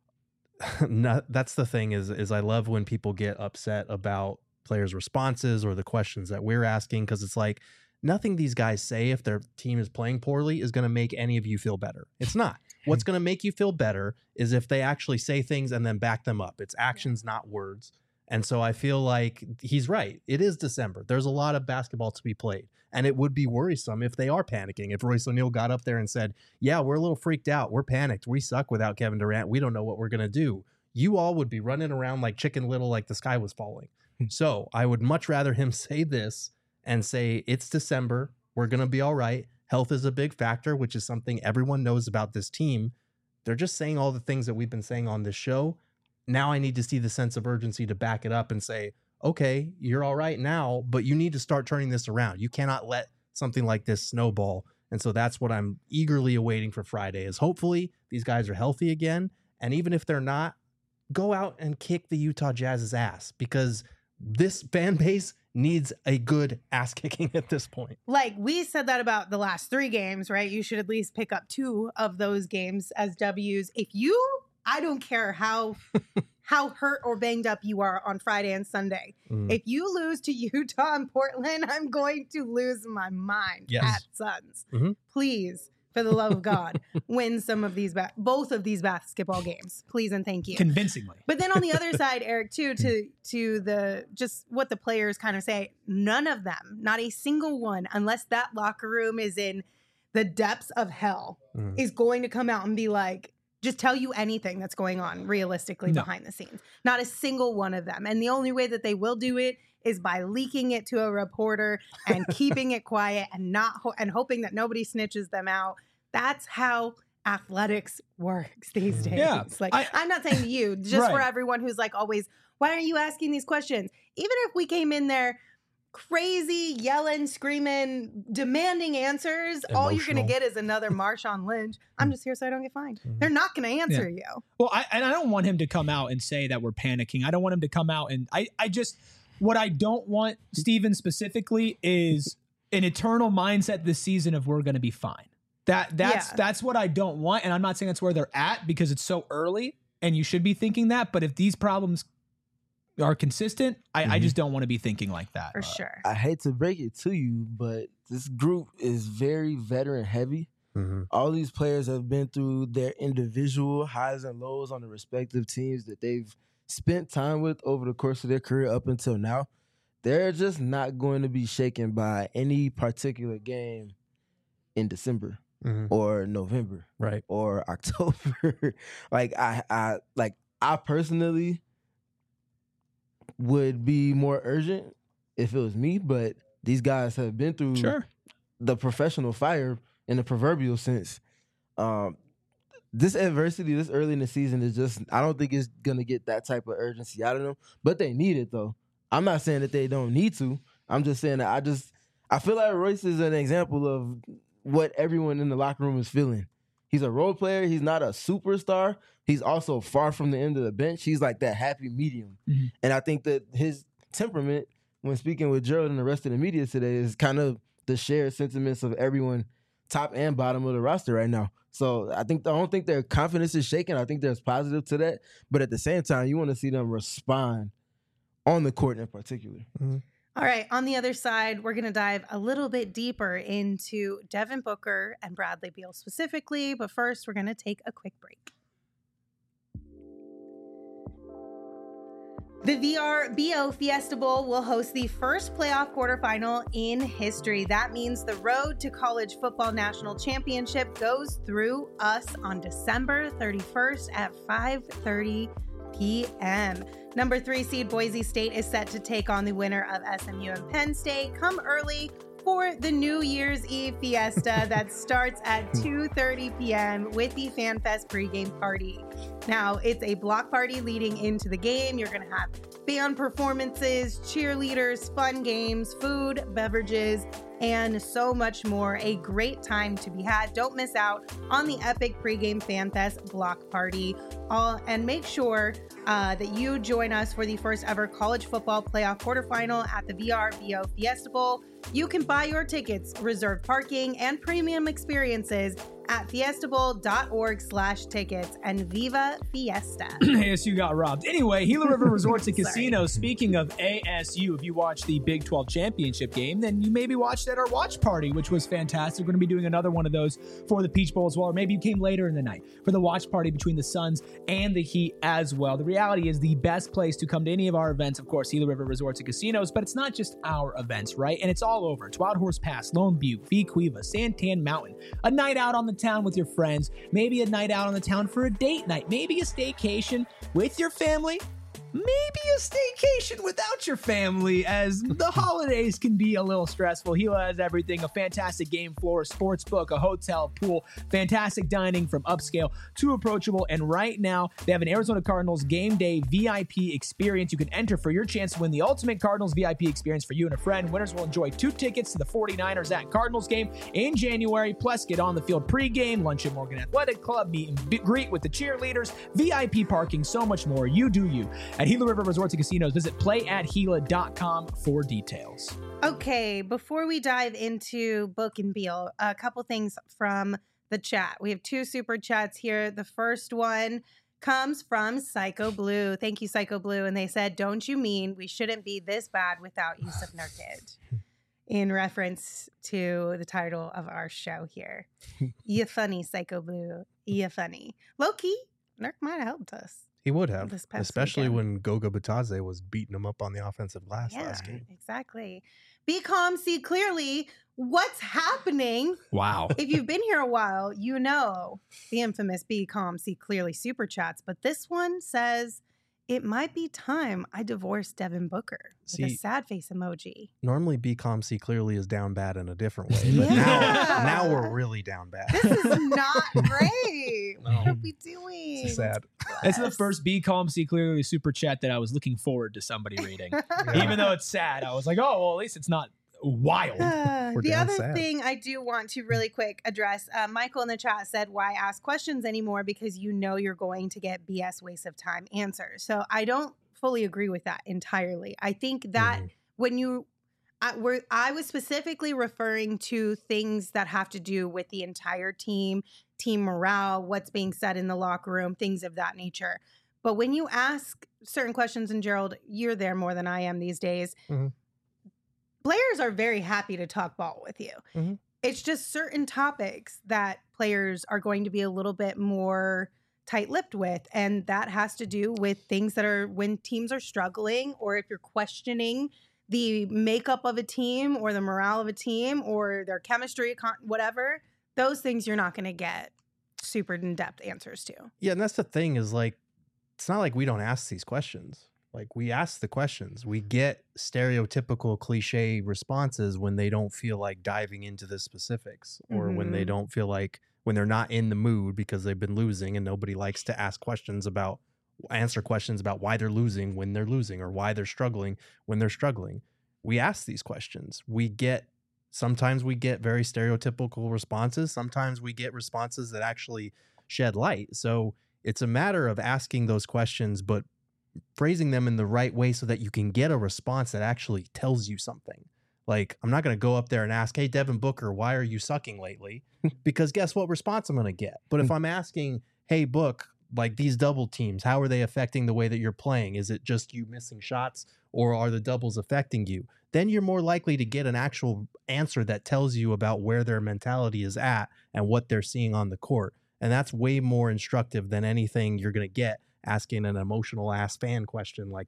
not, that's the thing is, is I love when people get upset about players' responses or the questions that we're asking, because it's like, nothing these guys say if their team is playing poorly is going to make any of you feel better. It's not. What's going to make you feel better is if they actually say things and then back them up. It's actions, not words. And so I feel like he's right. It is December. There's a lot of basketball to be played. And it would be worrisome if they are panicking. If Royce O'Neal got up there and said, yeah, we're a little freaked out. We're panicked. We suck without Kevin Durant. We don't know what we're going to do. You all would be running around like Chicken Little, like the sky was falling. So I would much rather him say this and say, it's December. We're going to be all right. Health is a big factor, which is something everyone knows about this team. They're just saying all the things that we've been saying on this show. Now I need to see the sense of urgency to back it up and say, okay, you're all right now, but you need to start turning this around. You cannot let something like this snowball. And so that's what I'm eagerly awaiting for Friday, is hopefully these guys are healthy again. And even if they're not, go out and kick the Utah Jazz's ass, because this fan base needs a good ass kicking at this point. Like, we said that about the last three games, right? You should at least pick up two of those games as W's. If you, I don't care how how hurt or banged up you are on Friday and Sunday. Mm. If you lose to Utah and Portland, I'm going to lose my mind Yes. at Suns. Mhm. Please, for the love of God, win some of these, ba- both of these basketball games. Please and thank you. Convincingly. But then on the other side, Eric, too, to to the just what the players kind of say, none of them, not a single one, unless that locker room is in the depths of hell, Mm. is going to come out and be like, just tell you anything that's going on realistically No. behind the scenes. Not a single one of them. And the only way that they will do it is by leaking it to a reporter and keeping it quiet and not ho- and hoping that nobody snitches them out. That's how athletics works these days. Yeah, Like, I- I'm not saying to you, just for Right. everyone who's like always, why are you asking these questions? Even if we came in there crazy, yelling, screaming, demanding answers, all you're going Emotional. to get is another Marshawn Lynch. I'm just here so I don't get fined. They're not going to answer you. Well, I, and I don't want him to come out and say that we're panicking. I don't want him to come out and I, I just, what I don't want, Steven, specifically, is an eternal mindset this season of we're going to be fine. That that's Yeah. that's what I don't want, and I'm not saying that's where they're at because it's so early, and you should be thinking that. But if these problems are consistent, I, I Mhm. just don't want to be thinking like that. For sure. I hate to break it to you, but this group is very veteran heavy. Mhm. All these players have been through their individual highs and lows on the respective teams that they've spent time with over the course of their career up until now. They're just not going to be shaken by any particular game in December Mhm. or November Right. or October. like I, I, like I personally would be more urgent if it was me, but these guys have been through Sure. the professional fire in the proverbial sense. Um, this adversity this early in the season is just, I don't think it's going to get that type of urgency out of them, but they need it though. I'm not saying that they don't need to. I'm just saying that I just, I feel like Royce is an example of what everyone in the locker room is feeling. He's a role player. He's not a superstar. He's also far from the end of the bench. He's like that happy medium. Mhm. And I think that his temperament, when speaking with Gerald and the rest of the media today, is kind of the shared sentiments of everyone, top and bottom of the roster right now. So I think I don't think their confidence is shaken. I think there's positive to that. But at the same time, you want to see them respond on the court in particular. All right, on the other side, we're going to dive a little bit deeper into Devin Booker and Bradley Beal specifically. But first, we're going to take a quick break. The V R B O Fiesta Bowl will host the first playoff quarterfinal in history. That means the road to college football national championship goes through us on December thirty-first at five thirty p.m. Number three seed Boise State is set to take on the winner of S M U and Penn State. Come early for the New Year's Eve Fiesta that starts at two thirty p.m. with the FanFest pregame party. Now, it's a block party leading into the game. You're going to have band performances, cheerleaders, fun games, food, beverages, and so much more. A great time to be had. Don't miss out on the epic pregame FanFest block party. All, and make sure uh, that you join us for the first ever college football playoff quarterfinal at the V R B O Fiesta Bowl. You can buy your tickets, reserve parking, and premium experiences at fiestabowl.org slash tickets, and Viva Fiesta. A S U got robbed. Anyway, Gila River Resorts and Casinos. Speaking of A S U, if you watched the Big twelve championship game, then you maybe watched at our watch party, which was fantastic. We're going to be doing another one of those for the Peach Bowl as well, or maybe you came later in the night for the watch party between the Suns and the Heat as well. The reality is the best place to come to any of our events, of course, Gila River Resorts and Casinos, but it's not just our events, right? And it's all over. It's Wild Horse Pass, Lone Butte, Vequiva, Santan Mountain, a night out on the town with your friends, maybe a night out on the town for a date night, maybe a staycation with your family, maybe a staycation without your family, as the holidays can be a little stressful. Gila has everything: a fantastic game floor, a sports book, a hotel, pool, fantastic dining from upscale to approachable. And right now, they have an Arizona Cardinals game day V I P experience. You can enter for your chance to win the ultimate Cardinals V I P experience for you and a friend. Winners will enjoy two tickets to the forty-niners at Cardinals game in January, plus get on the field pregame, lunch at Morgan Athletic Club, meet and greet with the cheerleaders, V I P parking, so much more. You do you. At Gila River Resorts and Casinos, visit play at gila dot com for details. Okay, before we dive into Book and Beal, a couple things from the chat. We have two super chats here. The first one comes from Psycho Blue. Thank you, Psycho Blue. And they said, "Don't you mean we shouldn't be this bad without Yusuf Nurkic?" In reference to the title of our show here. You funny, Psycho Blue. You funny. Low-key, Nurk might have helped us. He would have, This past especially weekend. when Goga Batadze was beating him up on the offensive glass Yeah, last game. exactly. Be calm, see clearly what's happening. Wow. If you've been here a while, you know the infamous Be Calm, See Clearly super chats. But this one says, it might be time I divorce Devin Booker with a See- sad face emoji. Normally, Be Calm, See Clearly is down bad in a different way. But Yeah. now, now we're really down bad. This is not great. What are we doing? It's sad. It's the first Be Calm, See Clearly super chat that I was looking forward to somebody reading. Even though it's sad, I was like, oh, well, at least it's not wild. Uh, We're the down other sad. thing I do want to really quick address, uh, Michael in the chat said, why ask questions anymore? Because you know you're going to get B S waste of time answers. So I don't fully agree with that entirely. I think that Mhm. when you, I, we're, I was specifically referring to things that have to do with the entire team, team morale, what's being said in the locker room, things of that nature. But when you ask certain questions, and Gerald, you're there more than I am these days, Mhm. players are very happy to talk ball with you. Mhm. It's just certain topics that players are going to be a little bit more tight-lipped with, and that has to do with things that are when teams are struggling, or if you're questioning the makeup of a team or the morale of a team or their chemistry, con- whatever, those things you're not going to get super in-depth answers to. Yeah, and that's the thing is like, it's not like we don't ask these questions. Like we ask the questions. We get stereotypical cliche responses when they don't feel like diving into the specifics, or when they Mhm. don't feel like, when they're not in the mood because they've been losing, and nobody likes to ask questions about, answer questions about why they're losing when they're losing, or why they're struggling when they're struggling. We ask these questions. We get, sometimes we get very stereotypical responses. Sometimes we get responses that actually shed light. So it's a matter of asking those questions, but phrasing them in the right way so that you can get a response that actually tells you something. Like, I'm not going to go up there and ask, hey, Devin Booker, why are you sucking lately? Because guess what response I'm going to get? But if I'm asking, hey, Book, like these double teams, how are they affecting the way that you're playing? Is it just you missing shots, or are the doubles affecting you? Then you're more likely to get an actual answer that tells you about where their mentality is at and what they're seeing on the court. And that's way more instructive than anything you're going to get asking an emotional ass fan question like that.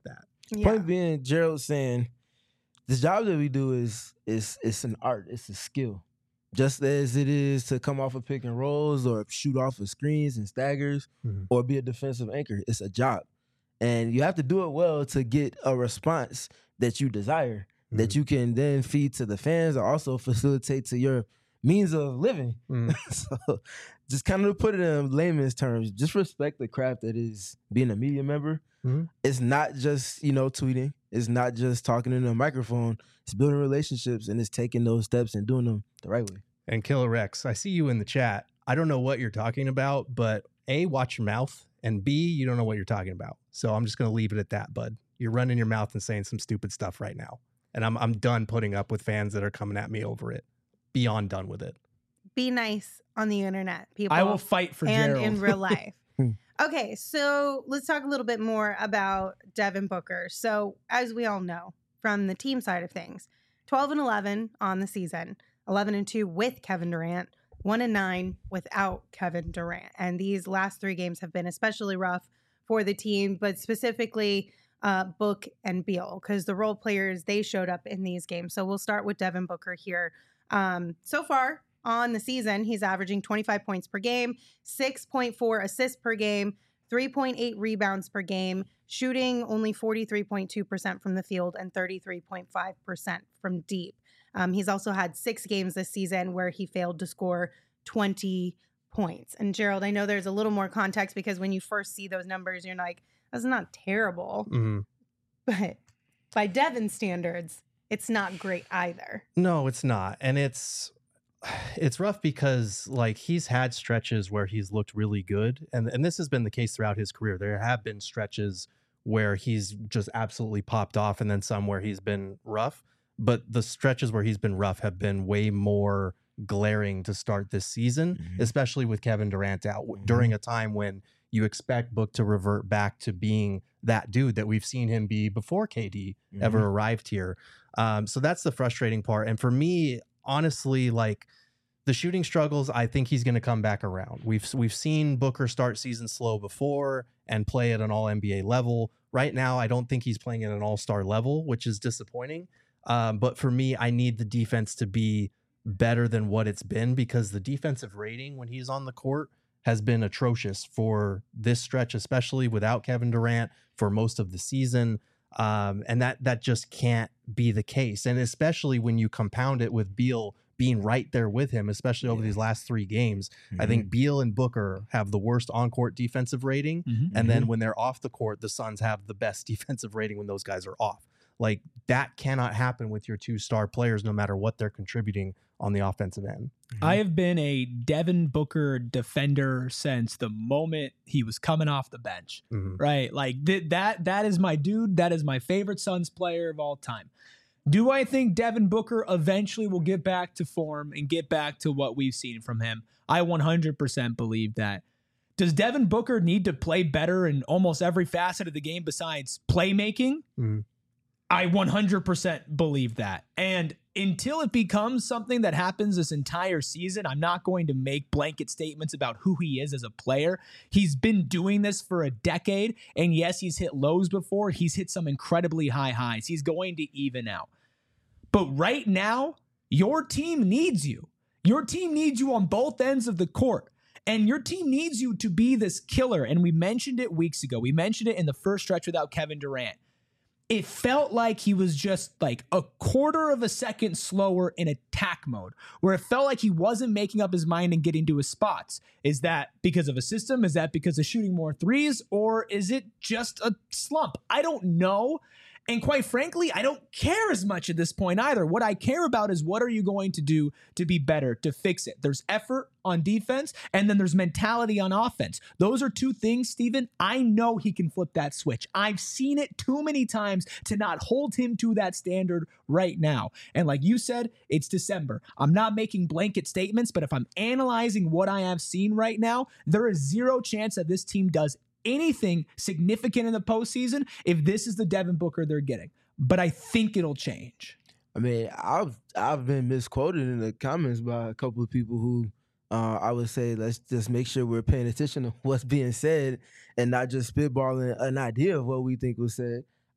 Yeah. Point being, Gerald saying the job that we do is is it's an art, it's a skill. Just as it is to come off of pick and rolls or shoot off of screens and staggers Mhm. or be a defensive anchor, it's a job. And you have to do it well to get a response that you desire, that you can then feed to the fans or also facilitate to your means of living. Mhm. So just kind of to put it in layman's terms, just respect the craft that is being a media member. Mhm. It's not just, you know, tweeting. It's not just talking into a microphone. It's building relationships and it's taking those steps and doing them the right way. And Killer Rex, I see you in the chat. I don't know what you're talking about, but A, watch your mouth, and B, you don't know what you're talking about. So I'm just going to leave it at that, bud. You're running your mouth and saying some stupid stuff right now. And I'm I'm done putting up with fans that are coming at me over it. Beyond done with it. Be nice on the internet, people. I will fight for and Gerald. in real life. Okay, so let's talk a little bit more about Devin Booker. So, as we all know from the team side of things, twelve and eleven on the season, eleven and two with Kevin Durant, one and nine without Kevin Durant. And these last three games have been especially rough for the team, but specifically uh, Book and Beal, because the role players, they showed up in these games. So we'll start with Devin Booker here. Um, so far on the season, he's averaging twenty-five points per game, six point four assists per game, three point eight rebounds per game, shooting only forty-three point two percent from the field and thirty-three point five percent from deep. Um, he's also had six games this season where he failed to score twenty points. And Gerald, I know there's a little more context because when you first see those numbers, you're like, that's not terrible. Mm-hmm. But by Devin standards, it's not great either. No, it's not. And it's it's rough because like he's had stretches where he's looked really good. And, and this has been the case throughout his career. There have been stretches where he's just absolutely popped off and then some where he's been rough. But the stretches where he's been rough have been way more glaring to start this season, mm-hmm. especially with Kevin Durant out mm-hmm. during a time when you expect Book to revert back to being that dude that we've seen him be before K D mm-hmm. ever arrived here. Um, so that's the frustrating part. And for me, honestly, like the shooting struggles, I think he's going to come back around. We've we've seen Booker start season slow before and play at an all N B A level. Right now, I don't think he's playing at an all-star level, which is disappointing. Um, but for me, I need the defense to be better than what it's been because the defensive rating when he's on the court has been atrocious for this stretch, especially without Kevin Durant for most of the season. Um, and that that just can't be the case. And especially when you compound it with Beal being right there with him, especially over yeah. these last three games. Mm-hmm. I think Beal and Booker have the worst on-court defensive rating. Mm-hmm. And then when they're off the court, the Suns have the best defensive rating when those guys are off. Like that cannot happen with your two star players, no matter what they're contributing on the offensive end. Mm-hmm. I have been a Devin Booker defender since the moment he was coming off the bench, mm-hmm. right? Like th- that, that is my dude. That is my favorite Suns player of all time. Do I think Devin Booker eventually will get back to form and get back to what we've seen from him? I one hundred percent believe that. Does Devin Booker need to play better in almost every facet of the game besides playmaking? Mm-hmm. I one hundred percent believe that. And until it becomes something that happens this entire season, I'm not going to make blanket statements about who he is as a player. He's been doing this for a decade. And yes, he's hit lows before. He's hit some incredibly high highs. He's going to even out. But right now, your team needs you. Your team needs you on both ends of the court. And your team needs you to be this killer. And we mentioned it weeks ago. We mentioned it in the first stretch without Kevin Durant. It felt like he was just like a quarter of a second slower in attack mode, where it felt like he wasn't making up his mind and getting to his spots. Is that because of a system? Is that because of shooting more threes? Or is it just a slump? I don't know. And quite frankly, I don't care as much at this point either. What I care about is what are you going to do to be better, to fix it? There's effort on defense, and then there's mentality on offense. Those are two things, Steven. I know he can flip that switch. I've seen it too many times to not hold him to that standard right now. And like you said, it's December. I'm not making blanket statements, but if I'm analyzing what I have seen right now, there is zero chance that this team does anything significant in the postseason if this is the Devin Booker they're getting. But I think it'll change. I mean, I've I've been misquoted in the comments by a couple of people who uh, I would say let's just make sure we're paying attention to what's being said and not just spitballing an idea of what we think was said.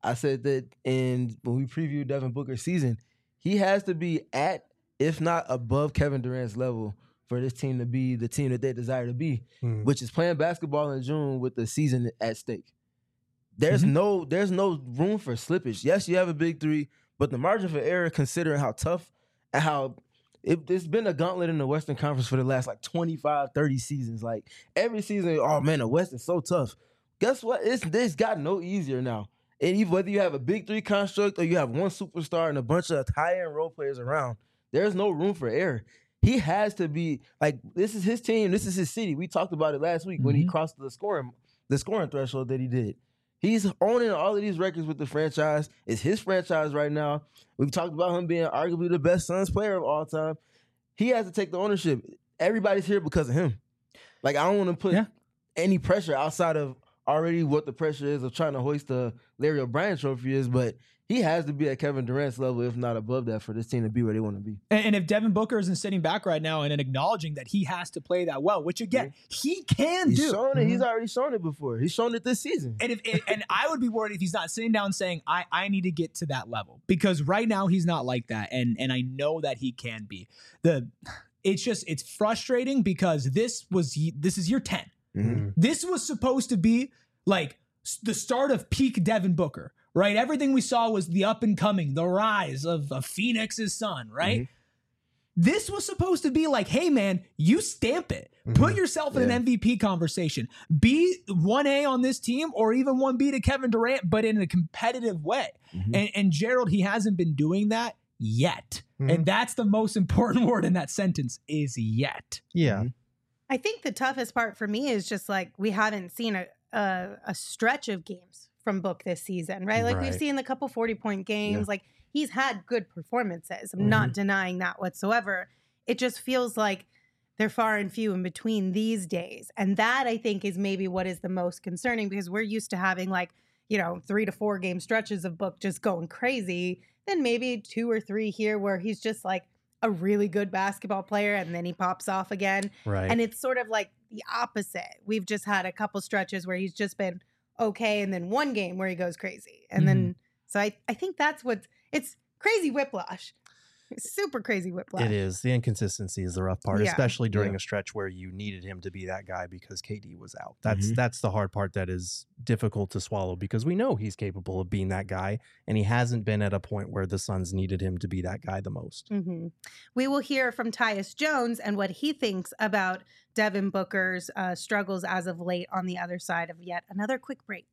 I said that in when we previewed Devin Booker's season, he has to be at, if not above, Kevin Durant's level for this team to be the team that they desire to be, Hmm. which is playing basketball in June with the season at stake. There's Mhm. no there's no room for slippage. Yes, you have a big three, but the margin for error, considering how tough and how it, it's been a gauntlet in the Western Conference for the last like twenty-five, thirty seasons. Like every season, oh man, the West is so tough. Guess what? It's it's got no easier now. And even whether you have a big three construct or you have one superstar and a bunch of high-end role players around, there's no room for error. He has to be like, this is his team, this is his city. We talked about it last week when he Mhm. crossed the scoring the scoring threshold that he did. He's owning all of these records with the franchise. It's his franchise right now. We've talked about him being arguably the best Suns player of all time. He has to take the ownership. Everybody's here because of him. Like, I don't want to put Yeah. any pressure outside of already what the pressure is of trying to hoist the Larry O'Brien trophy is, but he has to be at Kevin Durant's level, if not above that, for this team to be where they want to be. And, and if Devin Booker isn't sitting back right now and, and acknowledging that he has to play that well, which again, he can He's do. shown it. He's already shown it before. He's shown it this season. And if and I would be worried if he's not sitting down saying, I, I need to get to that level. Because right now he's not like that. And and I know that he can be. The it's just it's frustrating because this was this is year ten. Mhm. This was supposed to be like s- the start of peak Devin Booker, right? Everything we saw was the up and coming, the rise of, of Phoenix's son, right? Mhm. This was supposed to be like, hey man, you stamp it. Put yourself in Yeah. an M V P conversation. Be one A on this team or even one B to Kevin Durant, but in a competitive way. Mhm. And, and Gerald, he hasn't been doing that yet. Mhm. And that's the most important word in that sentence is yet. Yeah. I think the toughest part for me is just like we haven't seen a a, a stretch of games from Book this season, right? Like we've Right. seen the couple forty point games. Yeah. Like he's had good performances. I'm not denying that whatsoever. It just feels like they're far and few in between these days. And that I think is maybe what is the most concerning because we're used to having like, you know, three to four game stretches of Book just going crazy. Then maybe two or three here where he's just like a really good basketball player and then he pops off again. Right. And it's sort of like the opposite. We've just had a couple stretches where he's just been okay, and then one game where he goes crazy. And then, so I, I think that's what it's crazy whiplash. It's super crazy whiplash. It is. The inconsistency is the rough part, Yeah. especially during Yeah. a stretch where you needed him to be that guy because K D was out. That's Mhm. that's the hard part that is difficult to swallow because we know he's capable of being that guy, and he hasn't been at a point where the Suns needed him to be that guy the most. hmm We will hear from Tyus Jones and what he thinks about Devin Booker's uh, struggles as of late on the other side of yet another quick break.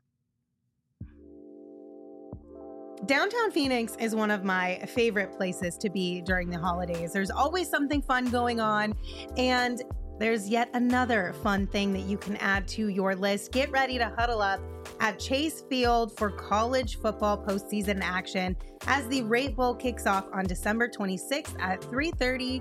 Downtown Phoenix is one of my favorite places to be during the holidays. There's always something fun going on, and there's yet another fun thing that you can add to your list. Get ready to huddle up at Chase Field for college football postseason action as the Rate Bowl kicks off on December twenty-sixth at three thirty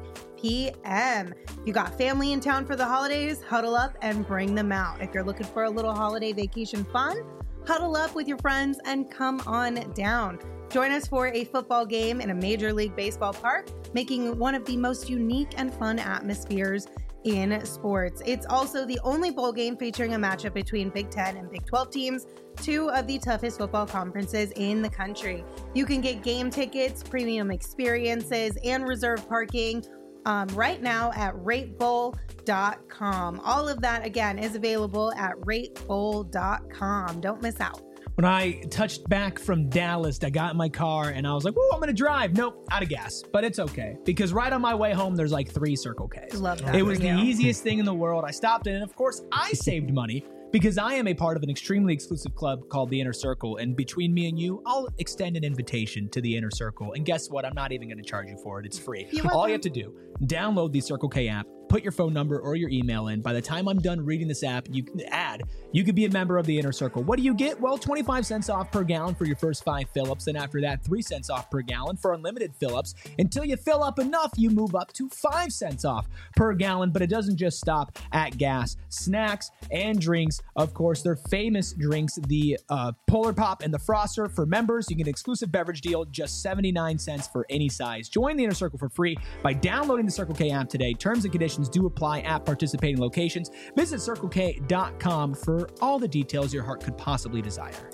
p.m. If you got family in town for the holidays, huddle up and bring them out. If you're looking for a little holiday vacation fun, huddle up with your friends and come on down. Join us for a football game in a Major League Baseball park, making one of the most unique and fun atmospheres in sports. It's also the only bowl game featuring a matchup between Big Ten and Big twelve teams, two of the toughest football conferences in the country. You can get game tickets, premium experiences, and reserve parking um, right now at rate bowl dot com. All of that, again, is available at rate bowl dot com. Don't miss out. When I touched back from Dallas, I got in my car and I was like, whoa, I'm going to drive. Nope, out of gas. But it's okay. Because right on my way home, there's like three Circle Ks. Love that It for was the you. easiest thing in the world. I stopped in, and of course, I saved money because I am a part of an extremely exclusive club called the Inner Circle. And between me and you, I'll extend an invitation to the Inner Circle. And guess what? I'm not even going to charge you for it. It's free. You're All welcome. you have to do, download the Circle K app, put your phone number or your email in. By the time I'm done reading this app, you can add, you could be a member of the Inner Circle. What do you get? Well, twenty-five cents off per gallon for your first five fill-ups. And after that, three cents off per gallon for unlimited fill-ups. Until you fill up enough, you move up to five cents off per gallon. But it doesn't just stop at gas. Snacks and drinks, of course, they're famous drinks, the uh, Polar Pop and the Froster. For members, you get an exclusive beverage deal, just seventy-nine cents for any size. Join the Inner Circle for free by downloading the Circle K app today. Terms and conditions do apply at participating locations. Visit circle k dot com for all the details your heart could possibly desire.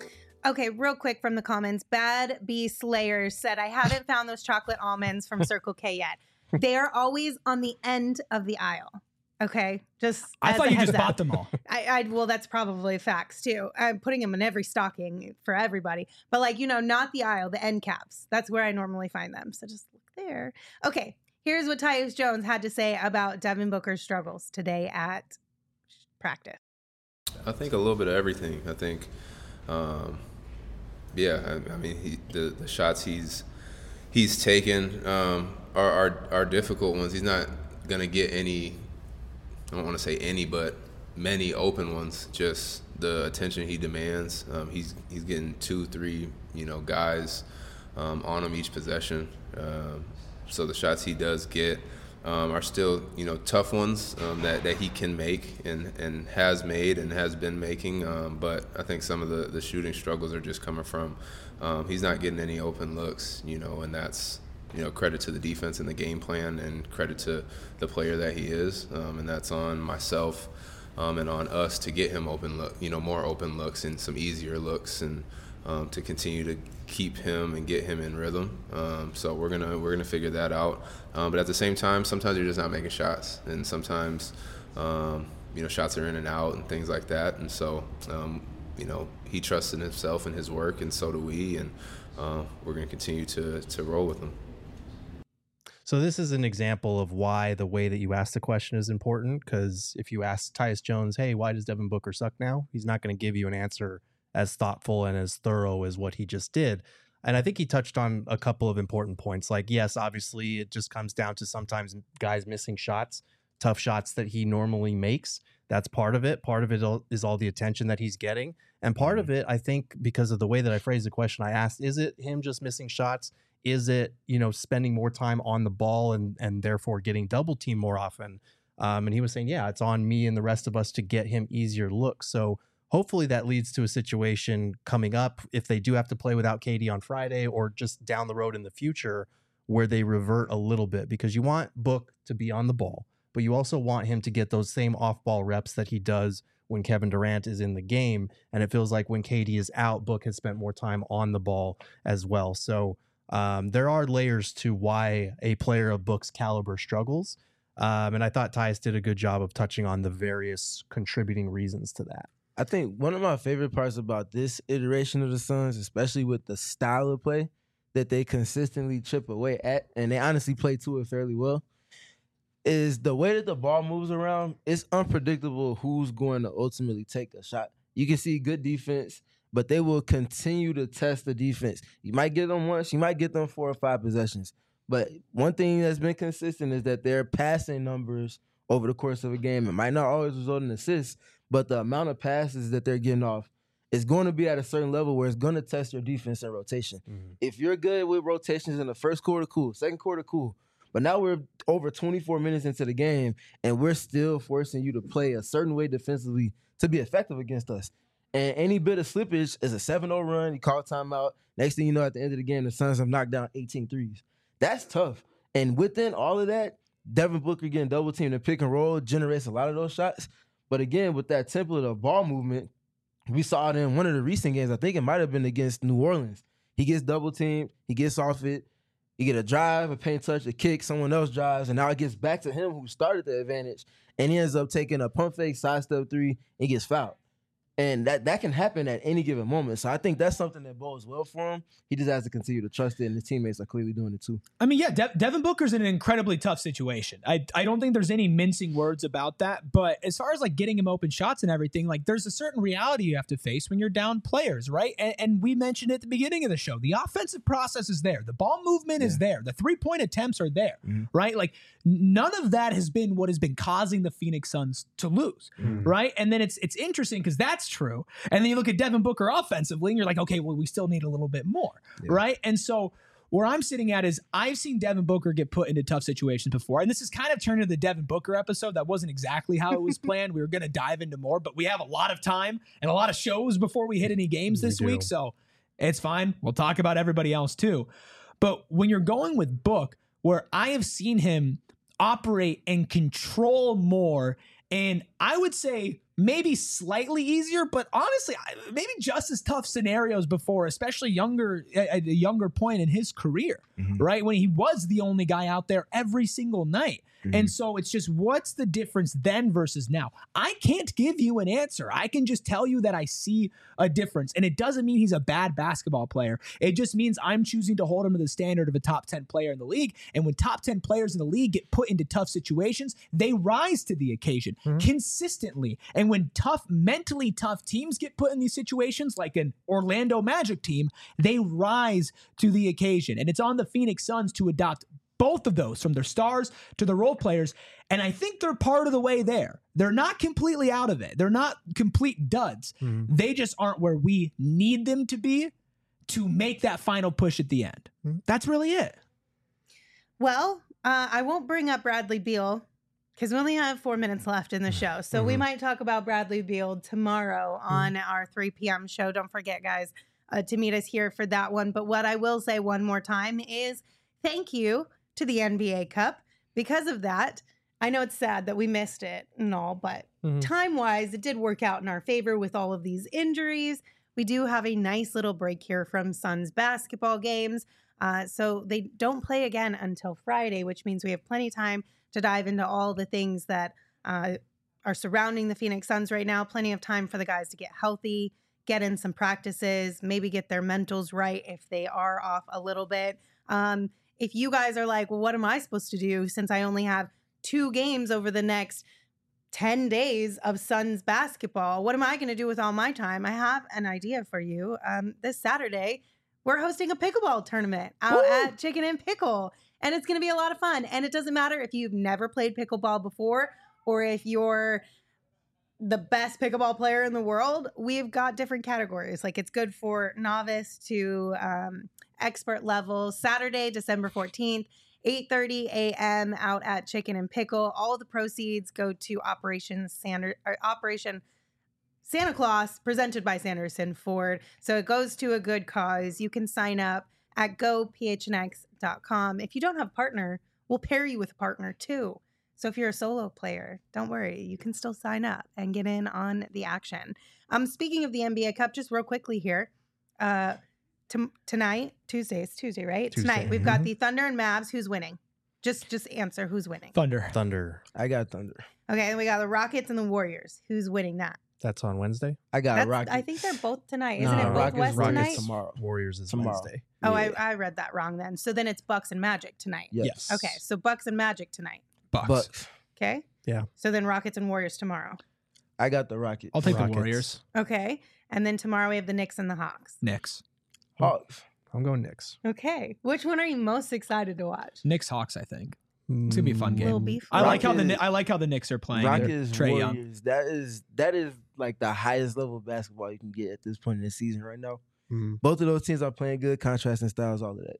Okay, real quick from the comments. Bad Bee Slayer said, I haven't found those chocolate almonds from Circle K yet. They are always on the end of the aisle. Okay, just I as thought a you heads just up. bought them all. I, I well, that's probably facts too. I'm putting them in every stocking for everybody, but like you know, not the aisle, the end caps. That's where I normally find them. So just look there. Okay, here's what Tyus Jones had to say about Devin Booker's struggles today at practice. I think a little bit of everything. I think, um, yeah, I, I mean, he, the the shots he's he's taken um, are, are are difficult ones. He's not gonna get any. I don't want to say any, but many open ones. Just the attention he demands. Um, he's he's getting two, three, you know, guys um, on him each possession. Um, so the shots he does get um, are still, you know, tough ones um, that, that he can make and, and has made and has been making. Um, but I think some of the, the shooting struggles are just coming from um, he's not getting any open looks, you know, and that's, you know, credit to the defense and the game plan and credit to the player that he is. Um, and that's on myself um, and on us to get him open look, you know, more open looks and some easier looks and um, to continue to keep him and get him in rhythm. Um, so we're gonna we're gonna figure that out. Um, but at the same time, sometimes you're just not making shots, and sometimes um, you know shots are in and out and things like that. And so um, you know he trusts in himself and his work, and so do we. And uh, we're gonna continue to to roll with him. So this is an example of why the way that you ask the question is important, because if you ask Tyus Jones, hey, why does Devin Booker suck now? He's not going to give you an answer as thoughtful and as thorough as what he just did. And I think he touched on a couple of important points. Like, yes, obviously it just comes down to sometimes guys missing shots, tough shots that he normally makes. That's part of it. Part of it is all the attention that he's getting. And part of it, I think, because of the way that I phrased the question I asked, is it him just missing shots? Is it, you know, spending more time on the ball and and therefore getting double teamed more often? Um, and he was saying, yeah, it's on me and the rest of us to get him easier looks. So hopefully that leads to a situation coming up if they do have to play without K D on Friday or just down the road in the future where they revert a little bit, because you want Book to be on the ball, but you also want him to get those same off-ball reps that he does when Kevin Durant is in the game. And it feels like when K D is out, Book has spent more time on the ball as well. So Um, there are layers to why a player of Book's caliber struggles. Um, and I thought Tyus did a good job of touching on the various contributing reasons to that. I think one of my favorite parts about this iteration of the Suns, especially with the style of play that they consistently chip away at, and they honestly play to it fairly well, is the way that the ball moves around. It's unpredictable who's going to ultimately take a shot. You can see good defense, but they will continue to test the defense. You might get them once, you might get them four or five possessions. But one thing that's been consistent is that their passing numbers over the course of a game, it might not always result in assists, but the amount of passes that they're getting off is going to be at a certain level where it's going to test your defense and rotation. Mm-hmm. If you're good with rotations in the first quarter, cool. Second quarter, cool. But now we're over twenty-four minutes into the game, and we're still forcing you to play a certain way defensively to be effective against us. And any bit of slippage is a seven oh run. You call timeout. Next thing you know, at the end of the game, the Suns have knocked down eighteen threes. That's tough. And within all of that, Devin Booker getting double teamed and pick and roll generates a lot of those shots. But again, with that template of ball movement, we saw it in one of the recent games. I think it might have been against New Orleans. He gets double teamed. He gets off it. You get a drive, a paint touch, a kick. Someone else drives. And now it gets back to him who started the advantage. And he ends up taking a pump fake, sidestep three, and gets fouled. And that, that can happen at any given moment. So I think that's something that bodes well for him. He just has to continue to trust it, and his teammates are clearly doing it too. I mean, yeah, De- Devin Booker's in an incredibly tough situation. I I don't think there's any mincing words about that. But as far as like getting him open shots and everything, like there's a certain reality you have to face when you're down players, right? And, and we mentioned at the beginning of the show, the offensive process is there. The ball movement yeah. is there. The three-point attempts are there, mm-hmm. right? Like none of that has been what has been causing the Phoenix Suns to lose, mm-hmm. right? And then it's it's interesting because that's true. And then you look at Devin Booker offensively and you're like, okay, well, we still need a little bit more, yeah. right? And so where I'm sitting at is I've seen Devin Booker get put into tough situations before. And this is kind of turned into the Devin Booker episode. That wasn't exactly how it was planned. We were going to dive into more, but we have a lot of time and a lot of shows before we hit any games this we week. So it's fine. We'll talk about everybody else too. But when you're going with Book, where I have seen him operate and control more, and I would say maybe slightly easier, but honestly, I- maybe just as tough scenarios before, especially younger at a younger point in his career, Mhm. right? When he was the only guy out there every single night. Mhm. And so it's just, what's the difference then versus now? I can't give you an answer. I can just tell you that I see a difference. And it doesn't mean he's a bad basketball player. It just means I'm choosing to hold him to the standard of a top ten player in the league. And when top ten players in the league get put into tough situations, they rise to the occasion consistently. And when tough, mentally tough teams get put in these situations, like an Orlando Magic team, they rise to the occasion. And it's on the Phoenix Suns to adopt both of those, from their stars to the role players. And I think they're part of the way there. They're not completely out of it. They're not complete duds. Mm-hmm. They just aren't where we need them to be to make that final push at the end. Mm-hmm. That's really it. Well, uh, I won't bring up Bradley Beal because we only have four minutes left in the show. So we Mhm. might talk about Bradley Beal tomorrow on our three p.m. show. Don't forget, guys, uh, to meet us here for that one. But what I will say one more time is thank you to the N B A Cup. Because of that, I know it's sad that we missed it and all, but Mhm. time-wise, it did work out in our favor with all of these injuries. We do have a nice little break here from Suns basketball games. Uh, so they don't play again until Friday, which means we have plenty of time to dive into all the things that uh, are surrounding the Phoenix Suns right now. Plenty of time for the guys to get healthy, get in some practices, maybe get their mentals right if they are off a little bit. Um, if you guys are like, well, what am I supposed to do since I only have two games over the next ten days of Suns basketball? What am I going to do with all my time? I have an idea for you. Um, this Saturday, we're hosting a pickleball tournament out Woo! at Chicken and Pickle, and it's going to be a lot of fun. And it doesn't matter if you've never played pickleball before or if you're the best pickleball player in the world. We've got different categories. Like, it's good for novice to um, expert level. Saturday, December fourteenth, eight thirty a.m. out at Chicken and Pickle. All the proceeds go to Operation Sander, or Operation Santa Claus, presented by Sanderson Ford. So it goes to a good cause. You can sign up at go p h n x dot com. If you don't have a partner, we'll pair you with a partner too. So if you're a solo player, don't worry. You can still sign up and get in on the action. Um, speaking of the N B A Cup, just real quickly here. Uh, t- tonight, Tuesday, it's Tuesday, right? Tuesday. Tonight, we've got the Thunder and Mavs. Who's winning? Just just answer who's winning. Thunder. Thunder. I got Thunder. Okay, and we got the Rockets and the Warriors. Who's winning that? That's on Wednesday. I got That's, Rockets. I think they're both tonight. Isn't Nah, it both Rockets, West Rockets tonight? tomorrow. Warriors is Tomorrow. Wednesday. Oh, Yeah. I, I read that wrong then. So then it's Bucks and Magic tonight. Yes. Okay, so Bucks and Magic tonight. Bucks. Bucks. Okay. Yeah. So then Rockets and Warriors tomorrow. I got the Rockets. I'll take Rockets. the Warriors. Okay. And then tomorrow we have the Knicks and the Hawks. Knicks. Hawks. I'm going Knicks. Okay. Which one are you most excited to watch? Knicks Hawks, I think. It's gonna be a fun game. Will be I fun. like how the Rockets- Kni- I like how the Knicks are playing. Rockets, Trae Young. Warriors. That is that is like the highest level of basketball you can get at this point in the season right now. Mm. Both of those teams are playing good, contrasting styles, all of that.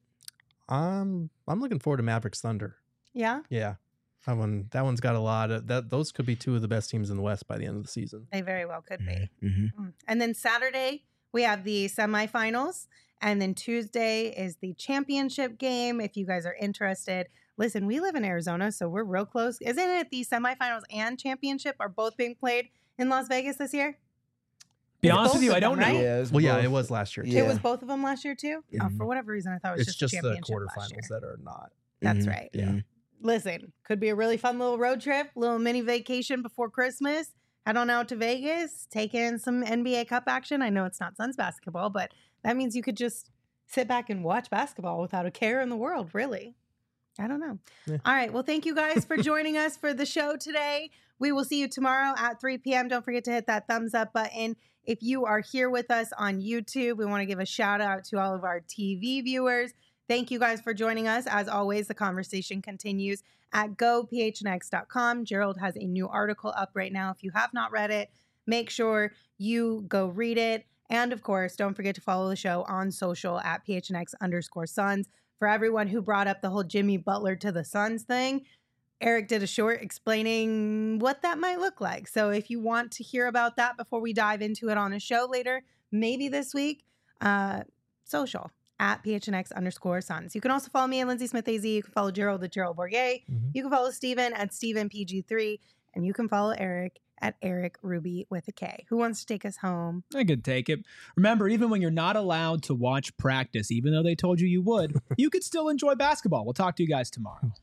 Um, I'm looking forward to Mavericks Thunder. Yeah. Yeah, that one. That one's got a lot of that. Those could be two of the best teams in the West by the end of the season. They very well could be. Mm-hmm. Mm. And then Saturday, we have the semifinals. And then Tuesday is the championship game. If you guys are interested, listen, we live in Arizona, so we're real close. Isn't it the semifinals and championship are both being played in Las Vegas this year? Be It's honest with both you, of I don't them, know. right? Yeah, it's Well, yeah, both. it was last year. Too. Yeah. It was both of them last year too? Oh, Mhm. for whatever reason, I thought it was It's just, just the championship last year. quarterfinals that are not. That's Mhm. right. Yeah. Listen, could be a really fun little road trip, little mini vacation before Christmas. Head on out to Vegas, take in some N B A Cup action. I know it's not Suns basketball, but that means you could just sit back and watch basketball without a care in the world, really. I don't know. Yeah. All right. Well, thank you guys for joining us for the show today. We will see you tomorrow at three p.m. Don't forget to hit that thumbs up button. If you are here with us on YouTube, we want to give a shout out to all of our T V viewers. Thank you guys for joining us. As always, the conversation continues at go p h n x dot com. Gerald has a new article up right now. If you have not read it, make sure you go read it. And of course, don't forget to follow the show on social at p h n x underscore Suns. For everyone who brought up the whole Jimmy Butler to the Suns thing, Eric did a short explaining what that might look like. So if you want to hear about that before we dive into it on a show later, maybe this week, uh, social at p h n x underscore Suns. You can also follow me at Lindsay Smith A Z. You can follow Gerald at Gerald Bourget. Mhm. You can follow Steven at Steven P G three. And you can follow Eric at Eric Ruby with a K. Who wants to take us home? I could take it. Remember, even when you're not allowed to watch practice, even though they told you you would, you could still enjoy basketball. We'll talk to you guys tomorrow.